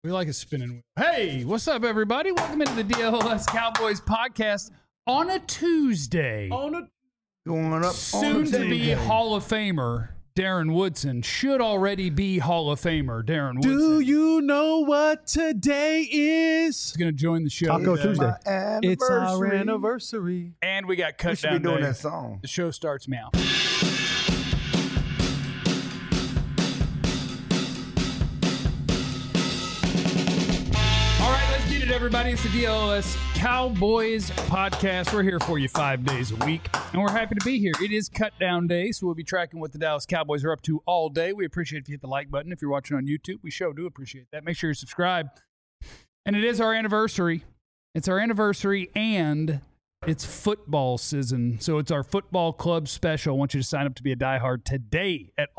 We like a spinning wheel. Hey, what's up, everybody? Welcome into the DLS Cowboys podcast on a Tuesday. Going up Soon to be Hall of Famer Darren Woodson should already be Hall of Famer Darren Woodson. Do you know what today is? He's going to join the show. Taco Tuesday. It's our anniversary. And we got cut We should down be doing day. that song. The show starts now. All right, let's get it, everybody. It's the DLS Cowboys podcast. We're here for you 5 days a week, and we're happy to be here. It is cut down day, so we'll be tracking what the Dallas Cowboys are up to all day. We appreciate if you hit the like button. If you're watching on YouTube, we sure do appreciate that. Make sure you subscribe. And it is our anniversary. It's our anniversary, and it's football season. So it's our football club special. I want you to sign up to be a diehard today at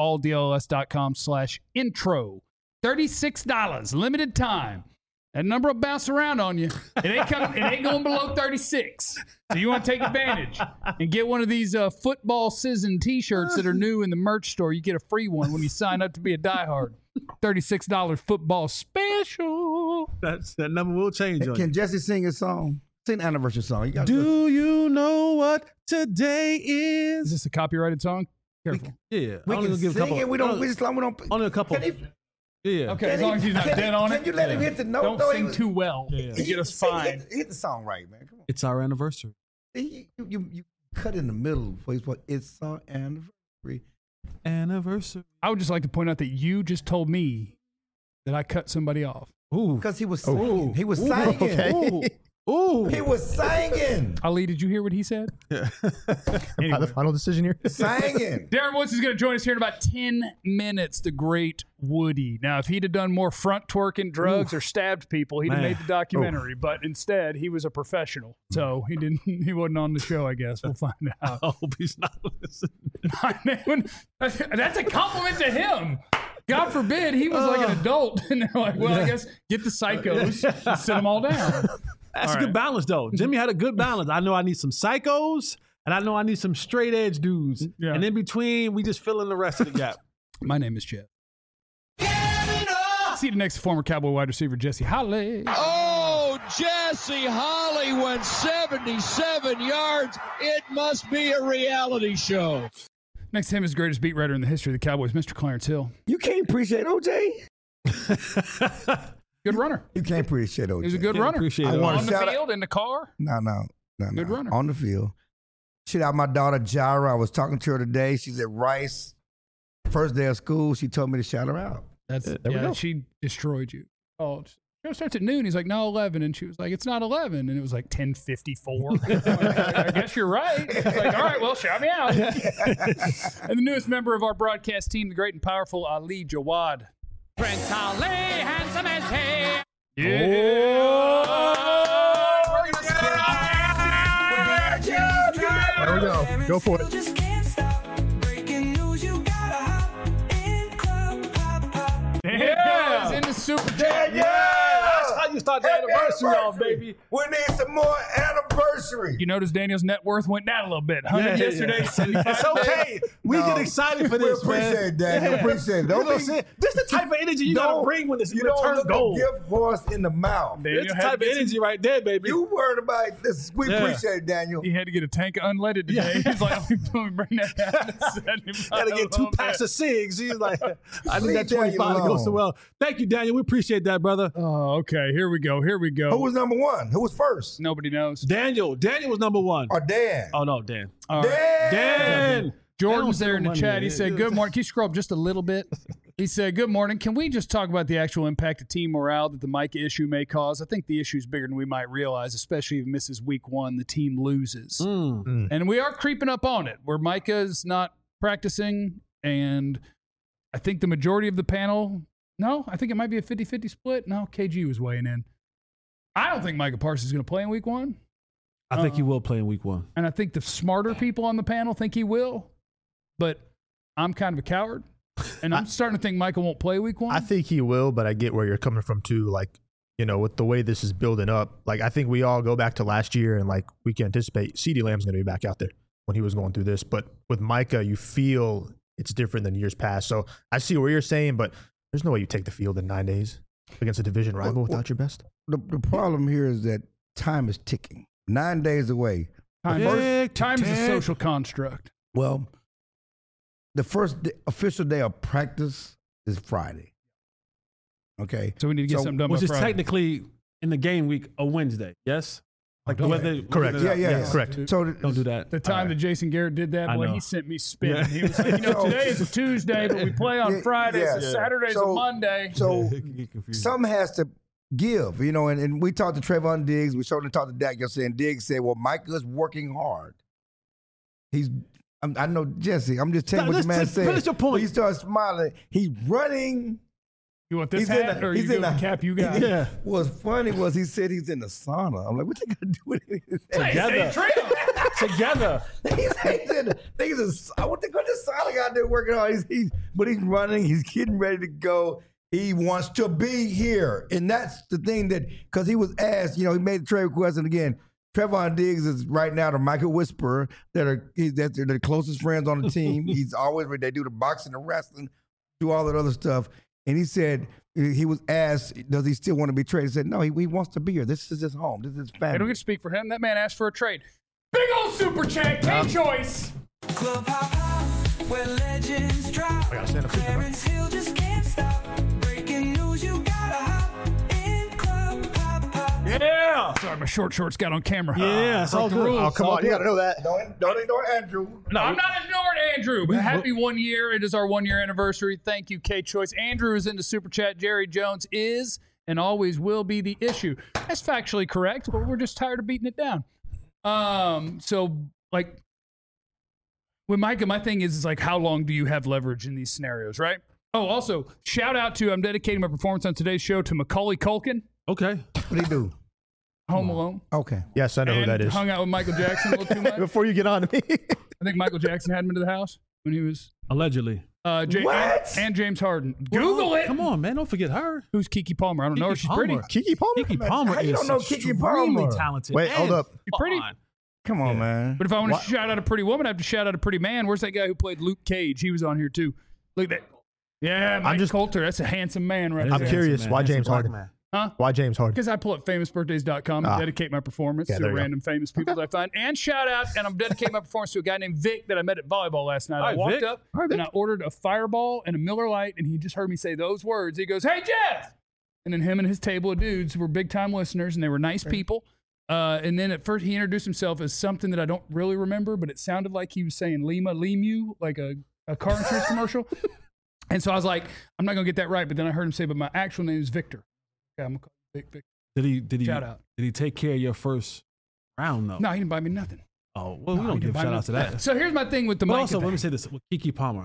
alldls.com/intro. $36, limited time. That number will bounce around on you. It ain't going below 36. So you want to take advantage and get one of these football season T-shirts that are new in the merch store. You get a free one when you sign up to be a diehard. $36 football special. That number will change on you. Can Jesse sing a song? Sing an anniversary song. You got Do you know what today Is is? this a copyrighted song? Careful. Yeah. We can sing it. We don't. Only a couple. Can he- Yeah. Okay, as long as he's not dead on it. Can you let him hit the note? Don't though? sing too well. Yeah. You get us fined. Hit the song right, man. Come on. It's our anniversary. You cut in the middle before you put it's our anniversary. Anniversary. I would just like to point out that you just told me that I cut somebody off. Ooh. Because he was singing. He was singing. Okay. Ooh. He was singing. Ali, did you hear what he said? Anyway. The final decision here. Singing. Darren Woods is going to join us here in about 10 minutes, the great Woody. Now, if he'd have done more front twerking drugs or stabbed people, he'd have Man. made the documentary. But instead, he was a professional. So he wasn't on the show, I guess. We'll find out. I hope he's not listening. That's a compliment to him. God forbid he was like an adult. And they're like, well, I guess get the psychos and sit them all down. That's All a good right. balance, though. Jimmy had a good balance. I know I need some psychos, and I know I need some straight edge dudes. Yeah. And in between, we just fill in the rest of the gap. My name is Jeff. See the next former Cowboy wide receiver, Jesse Holly. Oh, Jesse Holly went 77 yards. It must be a reality show. Next to him is the greatest beat writer in the history of the Cowboys, Mr. Clarence Hill. You can't appreciate OJ. Good runner. You can't appreciate OJ. He was a good Yeah, runner. appreciate I it. want On the Shout out- field, in the car. No. Good runner. On the field. Shout out my daughter, Jara. I was talking to her today. She's at Rice. First day of school. She told me to shout her out. That's There we go. she destroyed you. Oh, show starts at noon. He's like, no, 11. And she was like, it's not 11. And it was like 10:54. I guess you're right. It's like, all right, well, shout me out. And the newest member of our broadcast team, the great and powerful Ali Jawad. Prince Ali, handsome as he. Yeah. We're gonna start. There we go. Go for it. Just can't stop. Breaking news, you gotta hop in club, hop, hop. There it goes in the Super Chat. That's how you start the anniversary off, baby. We need some more anniversary. You notice Daniel's net worth went down a little bit. 100 yesterday, 75 It's okay. We No. get excited for We this, appreciate man. it, Daniel. Appreciate it. You Don't know what I'm be- saying? This is the type of energy you gotta bring when it's you don't return look gold. a gift horse in the mouth. Daniel It's the had to type of get some- energy right there, baby. You worried about this. We Yeah. appreciate it, Daniel. He had to get a tank of unleaded today. Yeah. He's like, let me bring that down to 75. Gotta get 2 packs of cigs. He's like, I need Leave that Daniel 25 to go so alone. well. Thank you, Daniel. We appreciate that, brother. Oh, okay. Here we go. Here we go. Who was number one? Who was first? Nobody knows. Daniel was number one. Or Dan? Oh, no, Dan. All right. Dan! Jordan's there in the money, chat. He man. said, good morning. Can you scroll up just a little bit? He said, good morning. Can we just talk about the actual impact of team morale that the Micah issue may cause? I think the issue is bigger than we might realize, especially if it misses week 1, the team loses. And we are creeping up on it, where Micah's not practicing, and I think the majority of the panel, no, I think it might be a 50-50 split. No, KG was weighing in. I don't think Micah Parsons is going to play in week 1. I think he will play in week 1. And I think the smarter people on the panel think he will, but I'm kind of a coward. And I'm starting to think Michael won't play week 1. I think he will, but I get where you're coming from too. Like, you know, with the way this is building up, like I think we all go back to last year and like we can anticipate CeeDee Lamb's going to be back out there when he was going through this. But with Micah, you feel it's different than years past. So I see what you're saying, but there's no way you take the field in 9 days. against a division rival without your best. The problem here is that time is ticking. 9 days away. Time is a social construct. Well, the first official day of practice is Friday. Okay. So we need to get something done by Which is Friday. technically in the game week a Wednesday. Yes. Like the weather. Correct. Yeah. Correct. So Don't do that. The time that Jason Garrett did that, I boy, know. he sent me spinning. Yeah. He was like, today is a Tuesday, but we play on Friday, so Saturday's a Monday. So something has to give, and we talked to Trayvon Diggs. We showed him talked to Dak yesterday, and Diggs said, well, Micah's working hard. I know, Jesse, I'm just telling you what the man said. Finish your point. He started smiling. He's running. You want this He's hat in a- or he's you go in with a- the cap you got? Yeah. What's funny was he said he's in the sauna. I'm like, what you got to do with it? Together. What the sauna guy do working on? But he's running. He's getting ready to go. He wants to be here, and that's the thing because he was asked. He made the trade request, and again, Trayvon Diggs is right now the Michael Whisperer they're the closest friends on the team. He's always they do the boxing, the wrestling, do all that other stuff. And he said he was asked, does he still want to be traded? He said, no, he wants to be here. This is his home. This is his family. They don't get to speak for him. That man asked for a trade. Big old super chat, K-Choice. Club hop hop, where legends drop. I gotta stand up. Clarence Hill just can't stop. Breaking news, you gotta hop in Club hop hop. Yeah. Sorry, my short shorts got on camera. Yeah. It's all the good. rules. Oh, come on. You got to know that. Don't ignore Andrew. No, I'm not ignoring Andrew. But happy 1 year. It is our 1 year anniversary. Thank you, K-Choice. Andrew is in the super chat. Jerry Jones is and always will be the issue. That's factually correct, but we're just tired of beating it down. So, like, with Micah, my thing is like, how long do you have leverage in these scenarios, right? Oh, also, shout out to, I'm dedicating my performance on today's show to Macaulay Culkin, Okay. What do he do? Home Alone. Okay. Yes, I know who And that is. hung out with Michael Jackson a little too much. Before you get on to me. I think Michael Jackson had him into the house when he was Allegedly. What? and James Harden. Google it. Come on, man. Don't forget her. Who's Kiki Palmer? I don't know her. Kiki She's pretty. Palmer. Kiki Palmer? Kiki Palmer how you is don't know Kiki extremely Palmer? talented. Wait, hold and up. She's pretty. fun. Come on, man. But if I want to shout out a pretty woman, I have to shout out a pretty man. Where's that guy who played Luke Cage? He was on here too. Look at that. Yeah, Mike Coulter. That's a handsome man right That is there. I'm curious, handsome, why man. James That's a black Harden? man. Huh? Why James Harden? Because I pull up famousbirthdays.com and dedicate my performance Yeah, to there you go. random famous people that I find. And shout out, and I'm dedicating my performance to a guy named Vic that I met at volleyball last night. I Hi, walked Vic. up and I ordered a Fireball and a Miller Lite, and he just heard me say those words. He goes, "Hey, Jeff!" And then him and his table of dudes were big time listeners, and they were nice people. And then at first he introduced himself as something that I don't really remember, but it sounded like he was saying Lemu, like a car insurance commercial. And so I was like, I'm not gonna get that right. But then I heard him say, "But my actual name is Victor." Okay, I'm gonna call you Vic. Did he Shout out. Did he take care of your first round though? No, he didn't buy me nothing. Oh, well, we No, don't he give didn't buy shout me out to nothing. that. So here's my thing with the But Micah also, thing. let me say this with Kiki Palmer.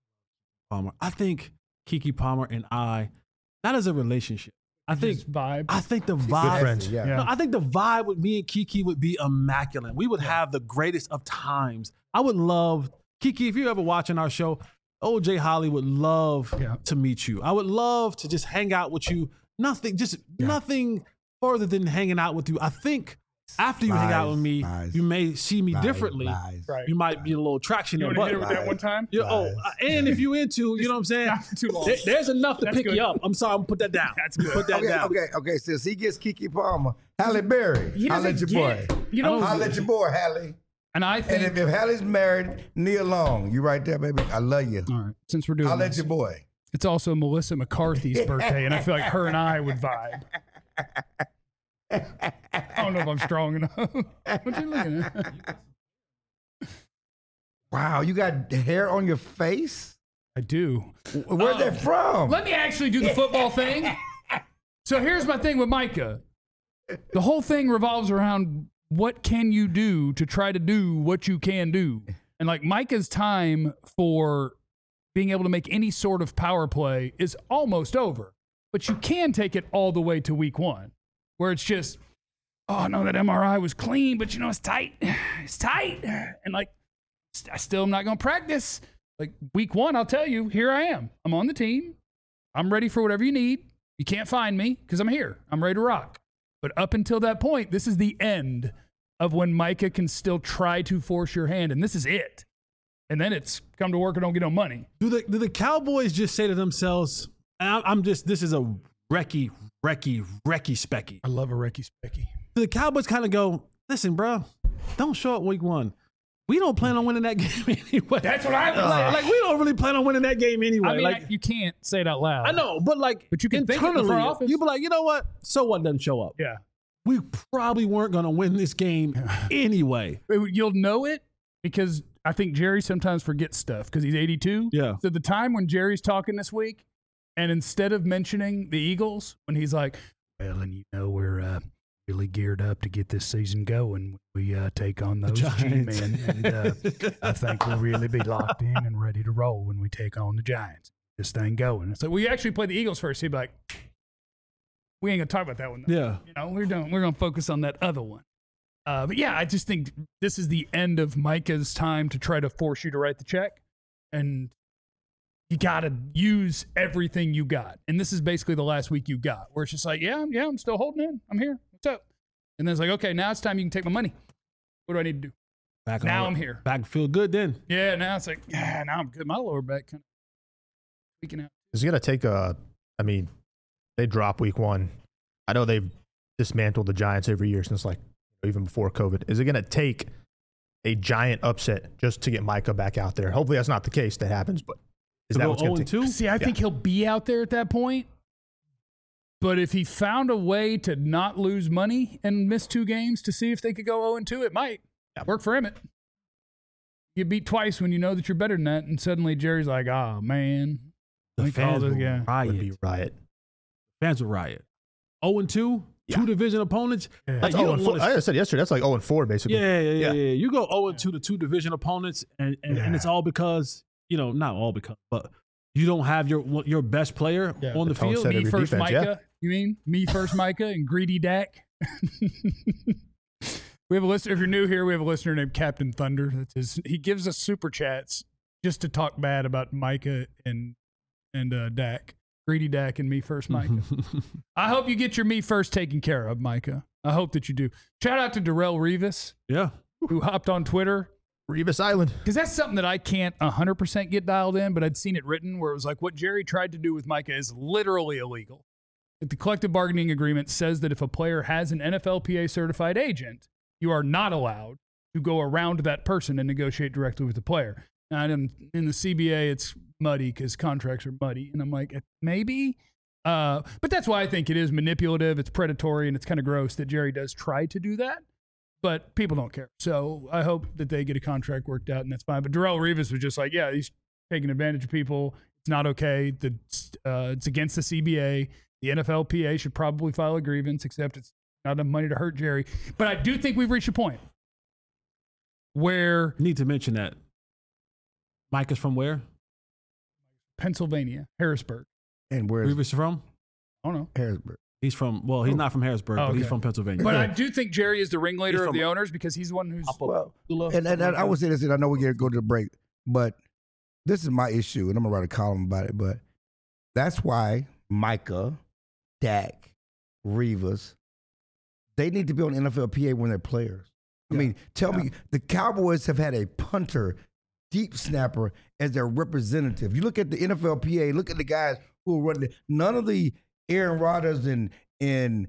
I think Kiki Palmer and I, not as a relationship. I think Just vibe. I think the Good vibe. friends. Yeah. Yeah. No, I think the vibe with me and Kiki would be immaculate. We would have the greatest of times. I would love Kiki. If you're ever watching our show, OJ Holly would love to meet you. I would love to just hang out with you. Nothing further than hanging out with you. I think after you hang out with me, you may see me differently. Right. You might be a little traction You there. want to hit But it with that one time? and if you into, you know what I'm saying? Not for too long. There's enough to That's pick good. you up. I'm sorry, I'm gonna put that down. That's good. Put that down. Okay. Since he gets Kiki Palmer, Halle Berry, He I'll let doesn't your boy. get- You know, I'll let your boy, Halle. and I And think. if Halle's married, Nia Long, you right there, baby. I love you. All right, since we're doing I'll let this, your boy. it's also Melissa McCarthy's birthday, and I feel like her and I would vibe. I don't know if I'm strong enough. What you looking at? Wow, you got hair on your face? I do. Where's that from? Let me actually do the football thing. So here's my thing with Micah. The whole thing revolves around what can you do to try to do what you can do. And like Micah's time for being able to make any sort of power play is almost over. But you can take it all the way to week one, where it's just, oh no, that MRI was clean, but it's tight. It's tight. And like, I still am not going to practice. Like week one, I'll tell you, here I am. I'm on the team. I'm ready for whatever you need. You can't find me because I'm here. I'm ready to rock. But up until that point, this is the end of when Micah can still try to force your hand. And this is it. And then it's come to work or don't get no money. Do the Cowboys just say to themselves, and this is a Recky Specky. I love a Recky Specky. The Cowboys kind of go, listen, bro, don't show up week 1. We don't plan on winning that game anyway. That's what I was saying. Like, we don't really plan on winning that game anyway. I mean, like, you can't say it out loud. I know, but you can think it in the internally, front office. you be like, you know what? So what doesn't show up? Yeah. We probably weren't going to win this game anyway. You'll know it because I think Jerry sometimes forgets stuff because he's 82. Yeah. So the time when Jerry's talking this week, and instead of mentioning the Eagles, when he's like, well, and we're really geared up to get this season going. We take on those G-men, and I think we'll really be locked in and ready to roll when we take on the Giants. This thing going. So we actually play the Eagles first. He'd be like, we ain't gonna talk about that one, though. Yeah. We're gonna focus on that other one. But yeah, I just think this is the end of Micah's time to try to force you to write the check, and you got to use everything you got. And this is basically the last week you got, where it's just like, yeah, I'm still holding in. I'm here. What's up? And then it's like, okay, now it's time you can take my money. What do I need to do? Now I'm here. Back feel good then. Yeah, now it's like, yeah, now I'm good. My lower back kind of freaking out. It's going to take they drop week 1. I know they've dismantled the Giants every year since even before COVID. Is it going to take a giant upset just to get Micah back out there? Hopefully that's not the case that happens, but is that what's going to take? See, I think he'll be out there at that point. But if he found a way to not lose money and miss 2 games to see if they could go 0-2, it might work for him. You beat twice when you know that you're better than that, and suddenly Jerry's like, oh, man. The fans will riot. Would be riot. Fans will riot. 0-2, 2 division opponents. Yeah. That's 0-4. Like I said yesterday, that's like 0-4 basically. Yeah. You go 0-2 to 2 division opponents, and it's all because, not all because, but you don't have your best player on the field. Me first, defense, Micah. You mean me first, Micah, and greedy Dak? We have a listener. If you're new here, we have a listener named Captain Thunder. He gives us super chats just to talk bad about Micah and Dak. Greedy Dak and me first, Micah. I hope you get your me first taken care of, Micah. I hope that you do. Shout out to Darrell Revis. Yeah. Who hopped on Twitter. Revis Island. Because that's something that I can't 100% get dialed in, but I'd seen it written where it was like what Jerry tried to do with Micah is literally illegal. The collective bargaining agreement says that if a player has an NFLPA certified agent, you are not allowed to go around that person and negotiate directly with the player. And in the CBA, it's muddy because contracts are muddy. And I'm like, maybe. But that's why I think it is manipulative. It's predatory, and it's kind of gross that Jerry does try to do that. But people don't care. So I hope that they get a contract worked out, and that's fine. But Darrell Revis was just like, yeah, he's taking advantage of people. It's not okay. It's against the CBA. The NFLPA should probably file a grievance, except it's not enough money to hurt Jerry. But I do think we've reached a point where... Need to mention that. Mike is from where? Pennsylvania, Harrisburg. And where's Revis from? I don't know. Harrisburg? He's from, he's not from Harrisburg, but he's from Pennsylvania. But I do think Jerry is the ringleader of the owners because he's the one who's... And I would say this, and I know we're going to go to the break, but this is my issue, and I'm going to write a column about it, but that's why Micah, Dak, Revis, they need to be on NFLPA when they're players. I mean, tell me, the Cowboys have had a punter, deep snapper as their representative. You look at the NFLPA, look at the guys who are running it. None of the Aaron Rodgers and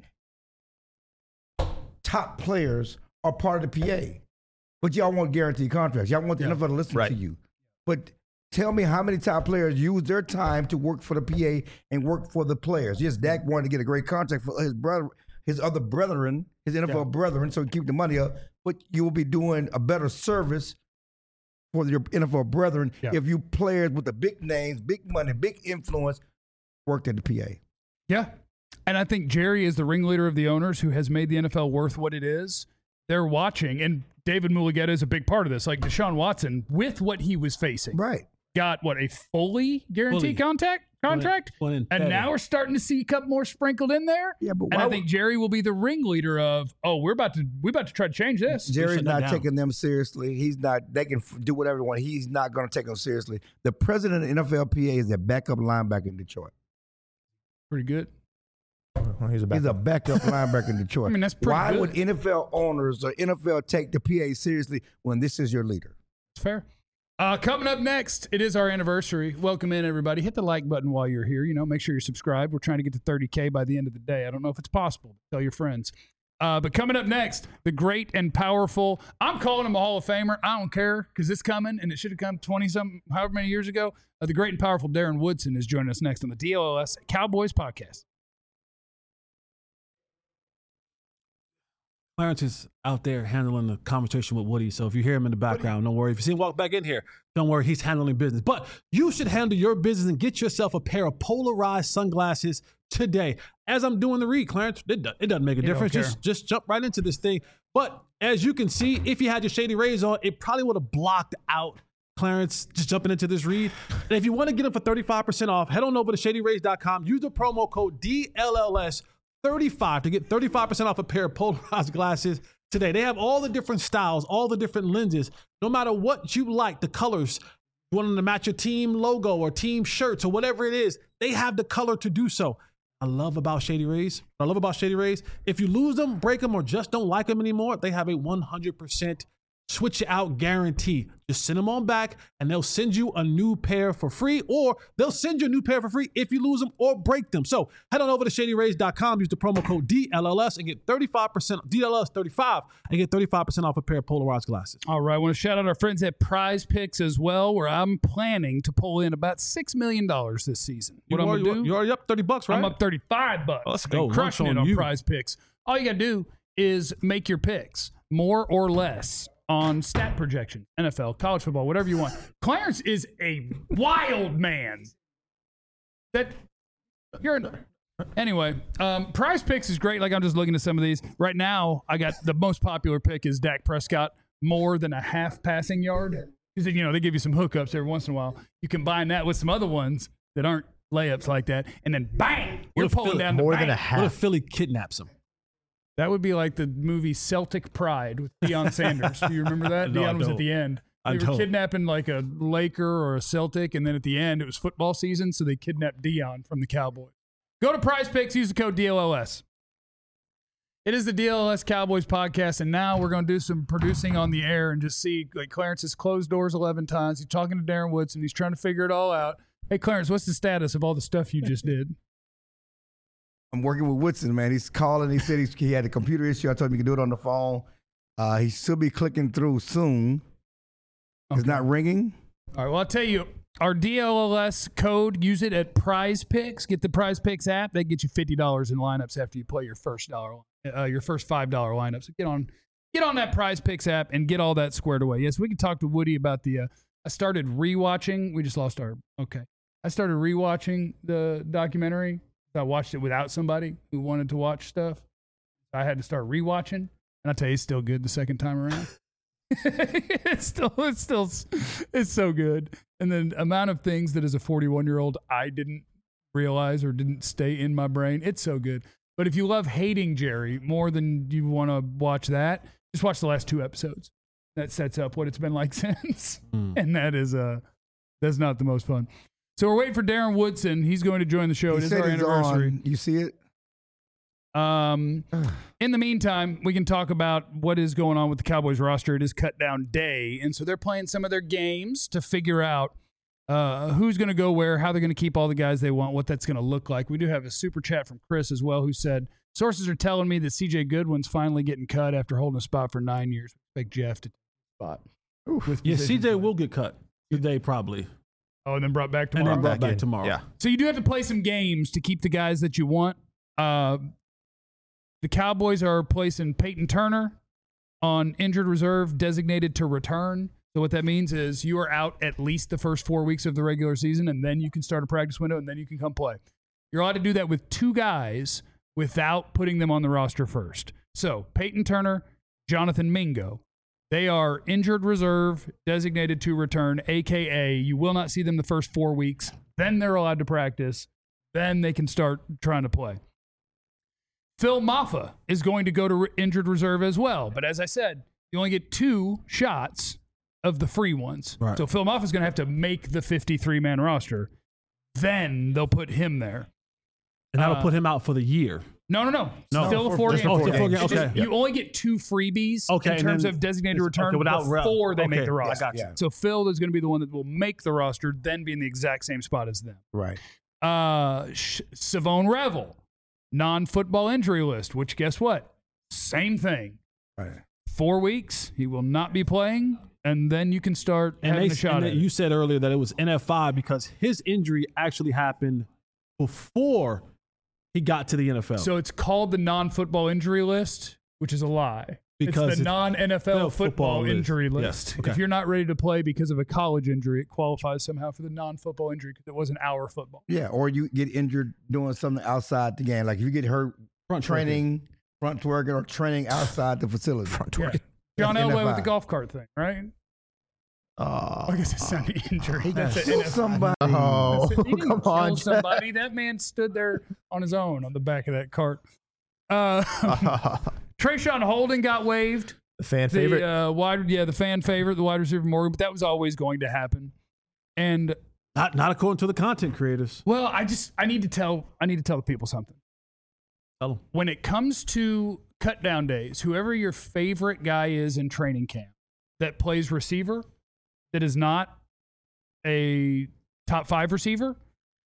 top players are part of the PA. But y'all want guaranteed contracts. Y'all want the NFL to listen to you. But tell me how many top players use their time to work for the PA and work for the players. Yes, Dak wanted to get a great contract for his brother, his other brethren, his NFL brethren, so he keep the money up. But you will be doing a better service for your NFL brethren if you players with the big names, big money, big influence worked at the PA. Yeah. And I think Jerry is the ringleader of the owners who has made the NFL worth what it is. They're watching, and David Mulugheta is a big part of this. Like Deshaun Watson, with what he was facing, got a fully guaranteed contract, and now we're starting to see a couple more sprinkled in there. Yeah, but and I think Jerry will be the ringleader of, we're about to try to change this. Jerry's not taking them seriously. He's not. They can do whatever they want. He's not going to take them seriously. The president of NFLPA is a backup linebacker in Detroit. Pretty good. Well, he's a backup linebacker in Detroit. I mean, that's pretty Why good. would NFL owners or NFL take the PA seriously when this is your leader? It's fair. Coming up next, it is our anniversary. Welcome in, everybody. Hit the like button while you're here. Make sure you're subscribed. We're trying to get to 30K by the end of the day. I don't know if it's possible. Tell your friends. But coming up next, the great and powerful, I'm calling him a Hall of Famer. I don't care because it's coming, and it should have come 20-something, however many years ago. The great and powerful Darren Woodson is joining us next on the DLS Cowboys podcast. Clarence is out there handling the conversation with Woody. So if you hear him in the background, don't worry. If you see him walk back in here, don't worry. He's handling business. But you should handle your business and get yourself a pair of polarized sunglasses today. As I'm doing the read, Clarence, it doesn't make a difference. Just jump right into this thing. But as you can see, if you had your Shady Rays on, it probably would have blocked out Clarence just jumping into this read. And if you want to get them for 35% off, head on over to ShadyRays.com. Use the promo code DLLS35 to get 35% off a pair of polarized glasses today. They have all the different styles, all the different lenses. No matter what you like, the colors, you want them to match your team logo or team shirts or whatever it is, they have the color to do so. I love about Shady Rays. If you lose them, break them, or just don't like them anymore, they have a 100% switch it out guarantee. Just send them on back and they'll send you a new pair for free, or they'll send you a new pair for free if you lose them or break them. So head on over to ShadyRays.com, use the promo code DLLS and get 35%, DLLS35, and get 35% off a pair of polarized glasses. All right. I want to shout out our friends at Prize Picks as well, where I'm planning to pull in about $6 million this season. What I'm going to do? You're already up $30, right? I'm up $35. Let's go. Crushing it on Prize Picks. All you got to do is make your picks, more or less, on stat projection, NFL, college football, whatever you want. Clarence is a wild man. Anyway, Prize Picks is great. Like, I'm just looking at some of these right now. I got the most popular pick is Dak Prescott, more than a half passing yard. Because, they give you some hookups every once in a while. You combine that with some other ones that aren't layups like that, and then bang, you're pulling down more the than a bank. half. What if Philly kidnaps him? That would be like the movie Celtic Pride with Deion Sanders. Do you remember that? No, Deion was at the end. They were kidnapping like a Laker or a Celtic, and then at the end, it was football season, so they kidnapped Deion from the Cowboys. Go to Prize Picks, use the code DLLS. It is the DLLS Cowboys podcast, and now we're going to do some producing on the air and just see, like, Clarence has closed doors 11 times. He's talking to Darren Woodson. He's trying to figure it all out. Hey, Clarence, what's the status of all the stuff you just did? I'm working with Woodson, man. He's calling. He said he had a computer issue. I told him he could do it on the phone. He should be clicking through soon. Okay. It's not ringing. All right, well, I'll tell you, our DLLS code, use it at Prize Picks. Get the Prize Picks app. They get you $50 in lineups after you play your first $5 lineup. So get on that Prize Picks app and get all that squared away. Yes, we can talk to Woody about I started rewatching. We just lost our, okay. I started rewatching the documentary. I watched it without somebody who wanted to watch stuff. I had to start rewatching, and I tell you, it's still good the second time around. it's so good. And then amount of things that as a 41-year-old I didn't realize or didn't stay in my brain. It's so good. But if you love hating Jerry more than you want to watch that, just watch the last 2 episodes. That sets up what it's been like since, and that's not the most fun. So we're waiting for Darren Woodson. He's going to join the show. It is our anniversary. On. You see it? In the meantime, we can talk about what is going on with the Cowboys roster. It is cut down day, and so they're playing some of their games to figure out who's going to go where, how they're going to keep all the guys they want, what that's going to look like. We do have a super chat from Chris as well, who said, sources are telling me that C.J. Goodwin's finally getting cut after holding a spot for 9 years. Expect Jeff to take a spot. Yeah, C.J. will get cut today probably. Oh, and then brought back tomorrow? And then brought back tomorrow. Yeah. So you do have to play some games to keep the guys that you want. The Cowboys are placing Peyton Turner on injured reserve, designated to return. So what that means is you are out at least the first 4 weeks of the regular season, and then you can start a practice window, and then you can come play. You're allowed to do that with 2 guys without putting them on the roster first. So Peyton Turner, Jonathan Mingo. They are injured reserve, designated to return, a.k.a. you will not see them the first 4 weeks. Then they're allowed to practice. Then they can start trying to play. Phil Maffa is going to go to injured reserve as well. But as I said, you only get 2 shots of the free ones. Right. So Phil Maffa is going to have to make the 53-man roster. Then they'll put him there. And that'll put him out for the year. No. No. Still the 4 Just games. the 4 games. It's just- Okay. You only get 2 freebies Okay, in and terms then of designated return without before they make okay, the I roster. got you. Yeah. So Phil is going to be the one that will make the roster, then be in the exact same spot as them. Right. Savone Revel, non-football injury list, which guess what? Same thing. Right. 4 weeks, he will not be playing, and then you can start having a shot at it. You said earlier that it was NF5 because his injury actually happened before he got to the NFL. So it's called the non-football injury list, which is a lie. Because it's the it's non-NFL football football list. injury Yes, list. okay. If you're not ready to play because of a college injury, it qualifies somehow for the non-football injury because it wasn't our football. Yeah, or you get injured doing something outside the game. Like if you get hurt Front training, front twerking, or training outside the facility. Yeah. John That's Elway with NFI. the golf cart thing, right? I guess it's not an injury. That's an Kill NFL. somebody. Oh, He didn't come kill on. somebody. That man stood there on his own on the back of that cart. Trayshawn Holden got waived. The fan favorite. The fan favorite, the wide receiver Morgan, but that was always going to happen. And not according to the content creators. well, I need to tell the people something. Tell 'em. When it comes to cut down days, whoever your favorite guy is in training camp that plays receiver, that is not a top 5 receiver,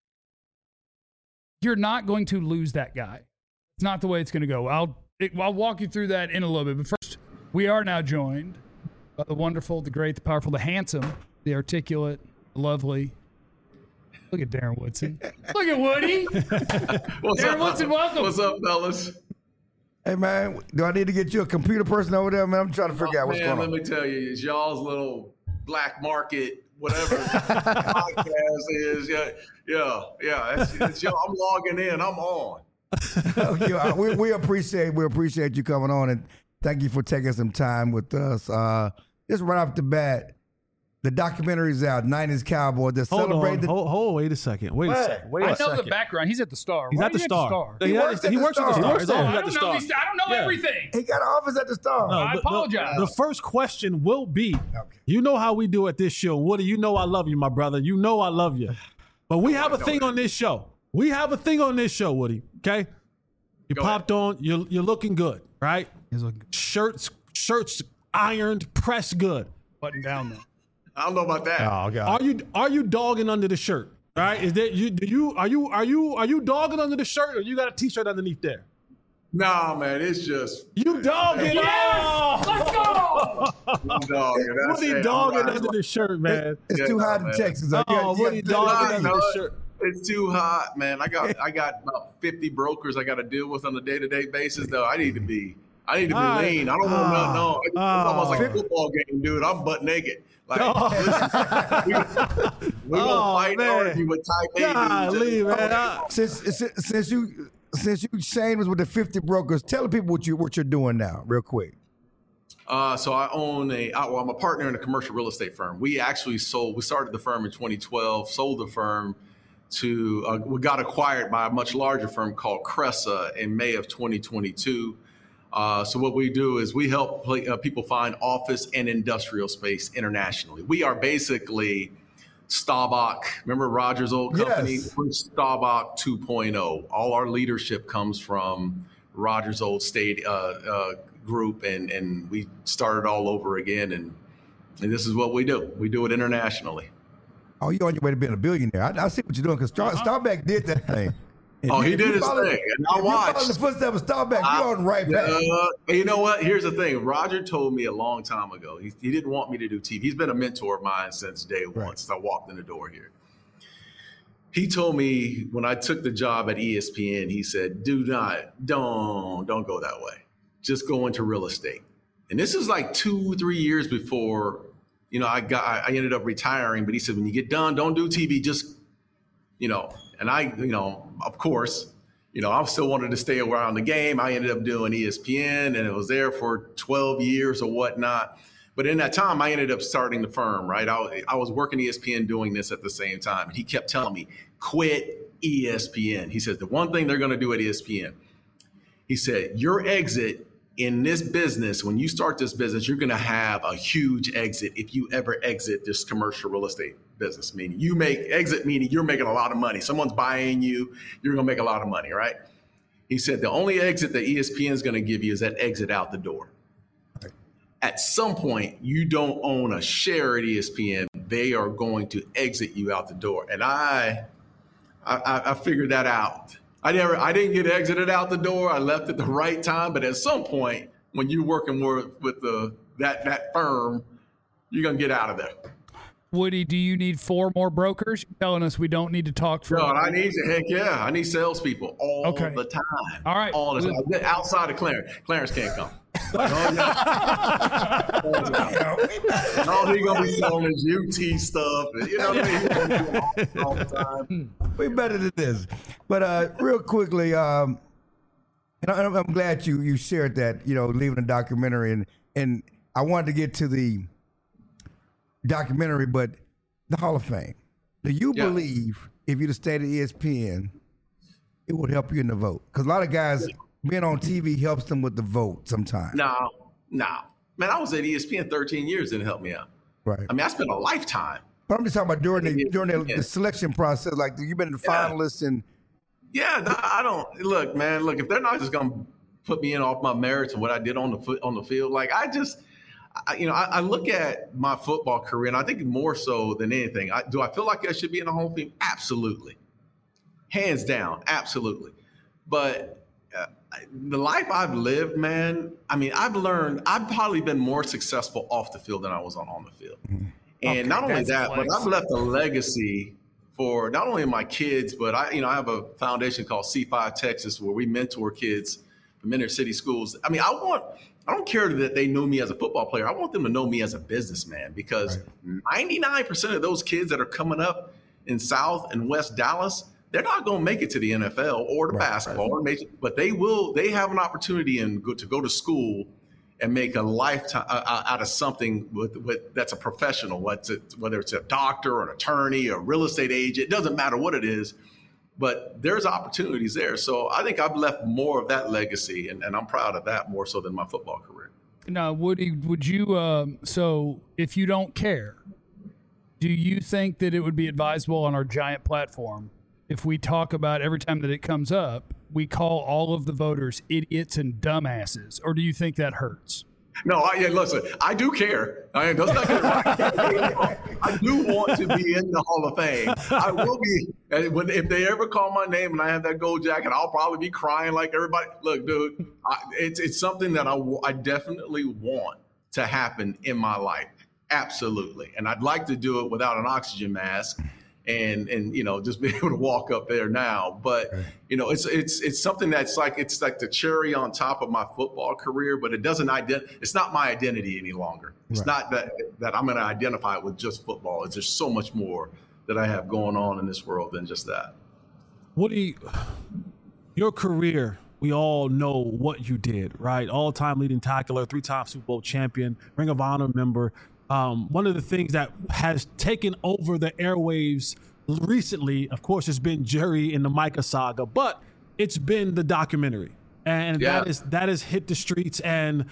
you're not going to lose that guy. It's not the way it's going to go. I'll walk you through that in a little bit. But first, we are now joined by the wonderful, the great, the powerful, the handsome, the articulate, the lovely. Look at Darren Woodson. Look at Woody. Darren Woodson, welcome. What's up, fellas? Hey man, do I need to get you a computer person over there, man? I'm trying to figure out what's Man, going on. let me tell you, it's y'all's little black market, whatever podcast is. Yeah. It's y'all. I'm logging in. I'm on. Okay, we appreciate you coming on, and thank you for taking some time with us. Just right off the bat, the documentary's out, 90s Cowboy. They're Hold celebrating on. Wait a second. Wait a second. I know the background. He's at the Star. He's Why at are the you Star. He works at the works at the Star. Star. He His works office I at the don't know Star. I don't know Yeah. everything. He got an office at the Star. No, I apologize. The first question will be, you know how we do at this show. Woody, you know I love you, my brother. You know I love you. But we have a thing on this show. Woody, okay? You Go popped on. You're looking good, right? He's looking Shirts ironed, pressed good. button down though. I don't know about that. Oh god. Are you dogging under the shirt? All right? Is that are you dogging under the shirt, or you got a t-shirt underneath there? Nah, man, it's just You dogging? Yes! Let's go! I'm dogging. That's Woody it. dogging I'm under the shirt, man. It's Yeah, too no, hot in man. Texas. Oh, Woody dogging under the shirt. It's too hot, man. I got about 50 brokers I got to deal with on a day-to-day basis. Though I need to be lean. I don't want nothing on. It's almost like a football game, dude. I'm butt naked. Like, we gonna fight and argue with type A Golly, dudes. man. Since you Shane was with the 50 brokers, tell the people what you're doing now, real quick. So I own I'm a partner in a commercial real estate firm. We started the firm in 2012, sold the firm to, we got acquired by a much larger firm called Cressa in May of 2022. So what we do is we help people find office and industrial space internationally. We are basically Staubach. Remember Roger's old company? Yes. We're Staubach 2.0. All our leadership comes from Roger's old state group, and we started all over again. And this is what we do. We do it internationally. Oh, you're on your way to being a billionaire. I see what you're doing because Staubach did that thing. Oh, he If did you his follow- thing, and I if you follow watched. the footsteps of Staubach, you're on the right path. You know what? Here's the thing. Roger told me a long time ago. He didn't want me to do TV. He's been a mentor of mine since day one, Right. since I walked in the door here. He told me when I took the job at ESPN, he said, don't go that way. Just go into real estate. And this is like 2-3 years before, I ended up retiring. But he said, when you get done, don't do TV. Just, and I, of course, I still wanted to stay around the game. I ended up doing ESPN, and it was there for 12 years or whatnot. But in that time, I ended up starting the firm, right? I was working ESPN doing this at the same time. And he kept telling me, quit ESPN. He says, the one thing they're going to do at ESPN, he said, your exit in this business, when you start this business, you're going to have a huge exit if you ever exit this commercial real estate business. Meaning meaning you're making a lot of money. Someone's buying you, you're going to make a lot of money, right? He said the only exit that ESPN is going to give you is that exit out the door. Right. At some point, you don't own a share at ESPN. They are going to exit you out the door. And I figured that out. I didn't get exited out the door. I left at the right time. But at some point, when you're working with that firm, you're going to get out of there. Woody, do you need 4 more brokers? You're telling us we don't need to talk for. No, I need I need salespeople all the time. All right. All the time. Outside of Clarence. Clarence can't come. All he gonna be selling is UT stuff. You know what I mean? All the time. We better than this. But real quickly, and I'm glad you shared that, leaving the documentary, and I wanted to get to the documentary, but the Hall of Fame. Do you believe if you'd have stayed at ESPN, it would help you in the vote? Because a lot of guys being on TV helps them with the vote sometimes. No. Man, I was at ESPN 13 years, didn't help me out. Right. I mean, I spent a lifetime. But I'm just talking about during the selection process, like you've been the finalists and. Yeah, I don't look, man. Look, if they're not just gonna put me in off my merits and what I did on the field, like I look at my football career, and I think more so than anything, do I feel like I should be in the Hall of Fame? Absolutely, hands down, absolutely. But the life I've lived, man, I mean, I've probably been more successful off the field than I was on the field. Mm-hmm. And not only that, but I've left a legacy for not only my kids, but I have a foundation called C5 Texas where we mentor kids from inner city schools. I mean, I don't care that they know me as a football player. I want them to know me as a businessman, because 99% of those kids that are coming up in South and West Dallas, they're not going to make it to the NFL or the basketball, or major, but they will. They have an opportunity to go to school and make a lifetime out of something with that's a professional, whether it's a doctor or an attorney or a real estate agent. It doesn't matter what it is, but there's opportunities there. So I think I've left more of that legacy, and I'm proud of that more so than my football career. Now, Woody, would you, so if you don't care, do you think that it would be advisable on our giant platform if we talk about every time that it comes up, we call all of the voters idiots and dumbasses? Or do you think that hurts? No, listen, I do care. I do want to be in the Hall of Fame. I will be. If they ever call my name and I have that gold jacket, I'll probably be crying like everybody. Look, dude, it's something that I definitely want to happen in my life. Absolutely. And I'd like to do it without an oxygen mask. And just be able to walk up there now, but it's something that's like the cherry on top of my football career, but it's not my identity any longer. It's not that I'm going to identify with just football. There's so much more that I have going on in this world than just that. Woody, your career, we all know what you did, right? All-time leading tackler, 3-time Super Bowl champion, Ring of Honor member. One of the things that has taken over the airwaves recently, of course, has been Jerry and the Micah saga, but it's been the documentary, and that has hit the streets. And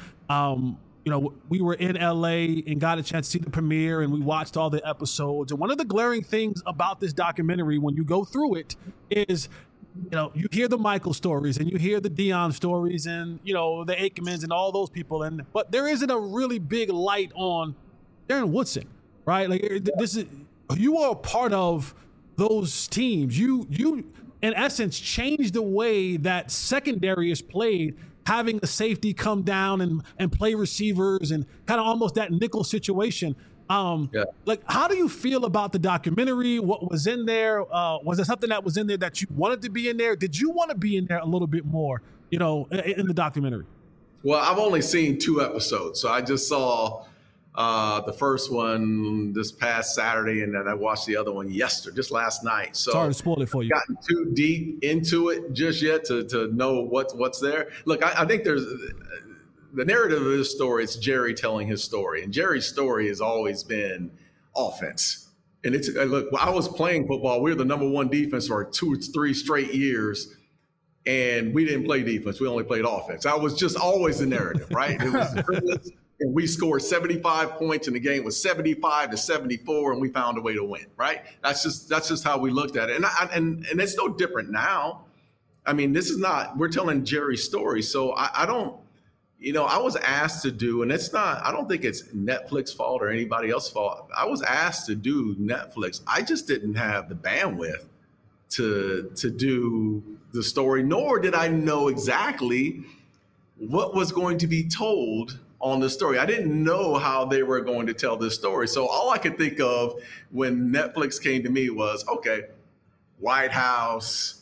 we were in LA and got a chance to see the premiere, and we watched all the episodes. And one of the glaring things about this documentary, when you go through it, is you hear the Michael stories and you hear the Dion stories and the Aikmans and all those people, but there isn't a really big light on Darren Woodson, right? Like you are a part of those teams. You in essence changed the way that secondary is played, having a safety come down and play receivers and kind of almost that nickel situation. Like, how do you feel about the documentary? What was in there? Was there something that was in there that you wanted to be in there? Did you want to be in there a little bit more, in the documentary? Well, I've only seen 2 episodes, so I just saw the first one this past Saturday, and then I watched the other one just last night. So sorry to spoil it for you. Gotten too deep into it just yet to know what's there. Look, I think there's the narrative of this story. It's Jerry telling his story, and Jerry's story has always been offense. And look, I was playing football. We were the number 1 defense for 2 or 3 straight years. And we didn't play defense. We only played offense. I was just always the narrative, right? It was the privilege. And we scored 75 points, and the game was 75-74, and we found a way to win. Right? That's just how we looked at it, and it's no different now. I mean, this is not, we're telling Jerry's story. So I don't, I was asked to do, and it's not, I don't think it's Netflix's fault or anybody else's fault. I was asked to do Netflix. I just didn't have the bandwidth to do the story, nor did I know exactly what was going to be told on the story. I didn't know how they were going to tell this story. So all I could think of when Netflix came to me was, okay, White House,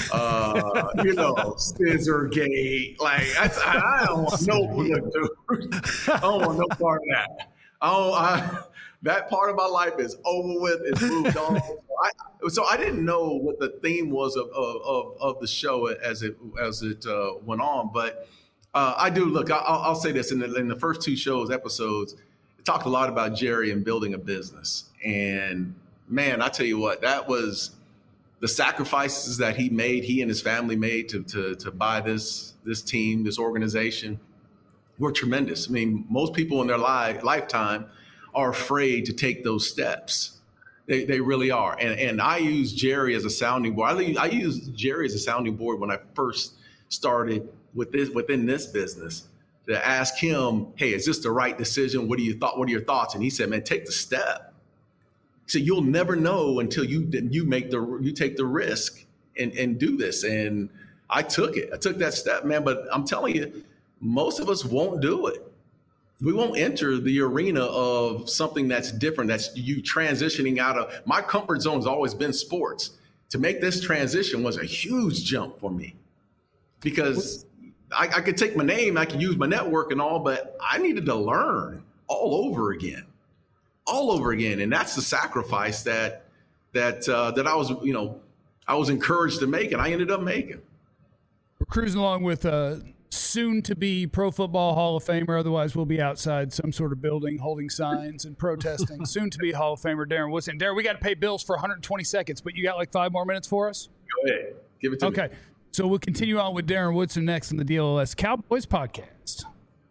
Scissorgate. Like, I don't want I don't want no part of that. That part of my life is over with. It's moved on. So I didn't know what the theme was of the show as it went on. But I do look. I'll say this: in the first 2 episodes, it talked a lot about Jerry and building a business. And man, I tell you what, that was the sacrifices that he and his family made to buy this team, this organization, were tremendous. I mean, most people in their lifetime are afraid to take those steps. They really are. And I use Jerry as a sounding board. I used Jerry as a sounding board when I first started within this business, to ask him, hey, is this the right decision? What are your thoughts? And he said, man, take the step. So you'll never know until you take the risk and do this. And I took it. I took that step, man. But I'm telling you, most of us won't do it. We won't enter the arena of something that's different. That's you transitioning out of. My comfort zone has always been sports. To make this transition was a huge jump for me, because I could take my name, I could use my network and all, but I needed to learn all over again. And that's the sacrifice that I was encouraged to make, and I ended up making. We're cruising along with soon-to-be Pro Football Hall of Famer. Otherwise, we'll be outside some sort of building holding signs and protesting. Soon-to-be Hall of Famer Darren Woodson. Darren, we got to pay bills for 120 seconds, but you got like 5 more minutes for us? Go ahead. Give it to me. Okay. So we'll continue on with Darren Woodson next on the DLS Cowboys podcast.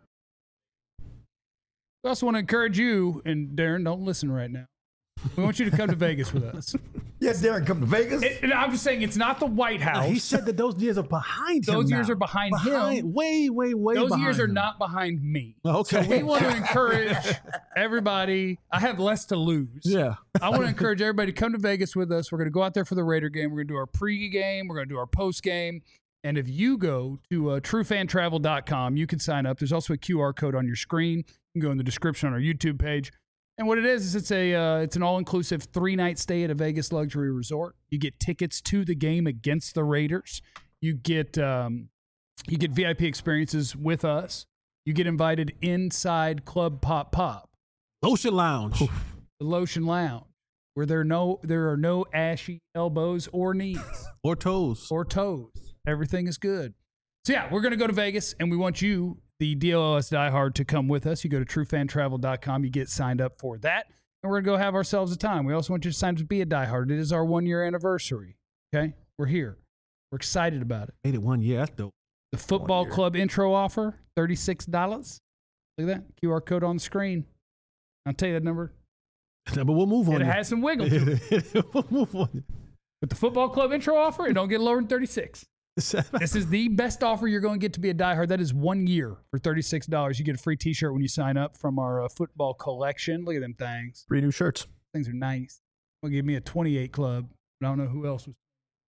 We also want to encourage you, and Darren, don't listen right now. We want you to come to Vegas with us. Yes, Darren, come to Vegas. And I'm just saying, it's not the White House. He said that those years are behind him. Those now. years are behind him. Way Those behind years are him. not behind me. Okay. So we want to encourage everybody. I have less to lose. Yeah. I want to encourage everybody to come to Vegas with us. We're going to go out there for the Raider game. We're going to do our pre-game. We're going to do our post-game. And if you go to truefantravel.com, you can sign up. There's also a QR code on your screen. You can go in the description on our YouTube page. And what it is it's an all-inclusive 3-night stay at a Vegas luxury resort. You get tickets to the game against the Raiders. You get VIP experiences with us. You get invited inside Club Pop. Lotion Lounge. The Lotion Lounge, where there are no ashy elbows or knees. Or toes. Everything is good. So yeah, we're going to go to Vegas, and we want you, the DLS diehard, to come with us. You go to truefantravel.com. You get signed up for that, and we're going to go have ourselves a time. We also want you to sign up to be a diehard. It is our 1-year anniversary. Okay? We're here. We're excited about it. Made it 1 year. That's dope. The football club intro offer, $36. Look at that. QR code on the screen. I'll tell you that number. But we'll move on. It has some wiggle to it. We'll move on. With the football club intro offer, it don't get lower than 36. This is the best offer you're going to get to be a diehard. That is 1 year for $36. You get a free T-shirt when you sign up from our football collection. Look at them things. 3 new shirts. Things are nice. Well, give me a 28 club. I don't know who else was.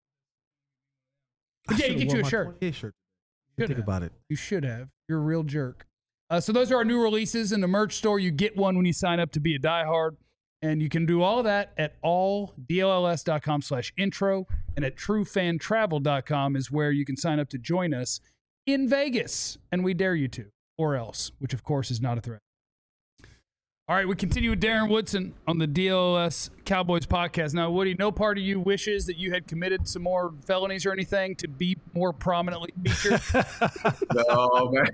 But yeah, you get you a shirt. Think about it. You should have. You're a real jerk. So those are our new releases in the merch store. You get one when you sign up to be a diehard. And you can do all of that at alldlls.com/intro, and at truefantravel.com is where you can sign up to join us in Vegas. And we dare you to, or else, which of course is not a threat. All right, we continue with Darren Woodson on the DLS Cowboys podcast. Now, Woody, no part of you wishes that you had committed some more felonies or anything to be more prominently featured? No, man.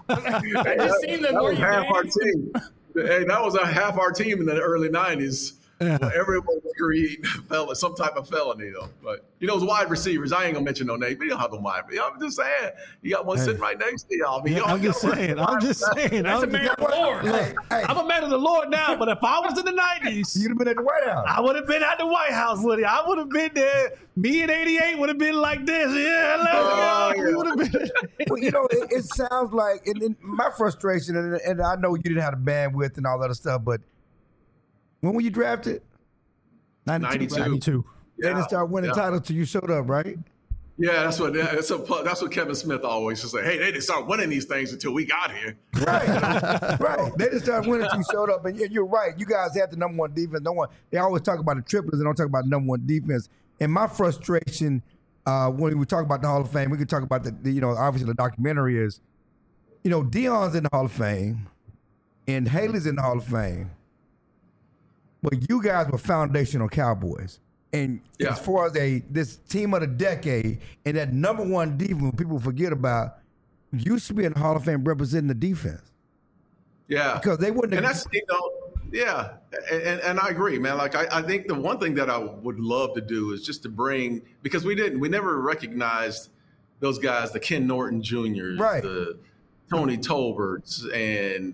I just seen the that was half our team. Hey, that was half our team in the early 90s. Well, everyone was creating some type of felony, though. But, those wide receivers, I ain't going to mention no name, but you don't have no wide. I'm just saying, you got one sitting right next to y'all. I'm just saying. That's a man of the Lord. Hey, I'm a man of the Lord now, but if I was in the 90s, you'd have been at the White House. I would have been at the White House, Woody. I would have been there. Me in 88 would have been like this. Yeah, let's go. We would have been. Well, it sounds like, and my frustration, and I know you didn't have the bandwidth and all that other stuff, but when were you drafted? 92. 92. They didn't start winning titles till you showed up, right? Yeah, that's what Kevin Smith always says. Hey, they didn't start winning these things until we got here. Right, right. They didn't start winning until you showed up, and you're right. You guys had the number one defense. They always talk about the triplets, and don't talk about the number one defense. And my frustration when we talk about the Hall of Fame, we can talk about the obviously the documentary is, Deion's in the Hall of Fame, and Haley's in the Hall of Fame. But you guys were foundational Cowboys. And as far as this team of the decade and that number one defense people forget about, you should be in the Hall of Fame representing the defense. Yeah. Because they wouldn't have. And that's, yeah. And I agree, man. Like, I think the one thing that I would love to do is just to bring, because we never recognized those guys, the Ken Norton Jr.'s, right, the Tony Tolberts, and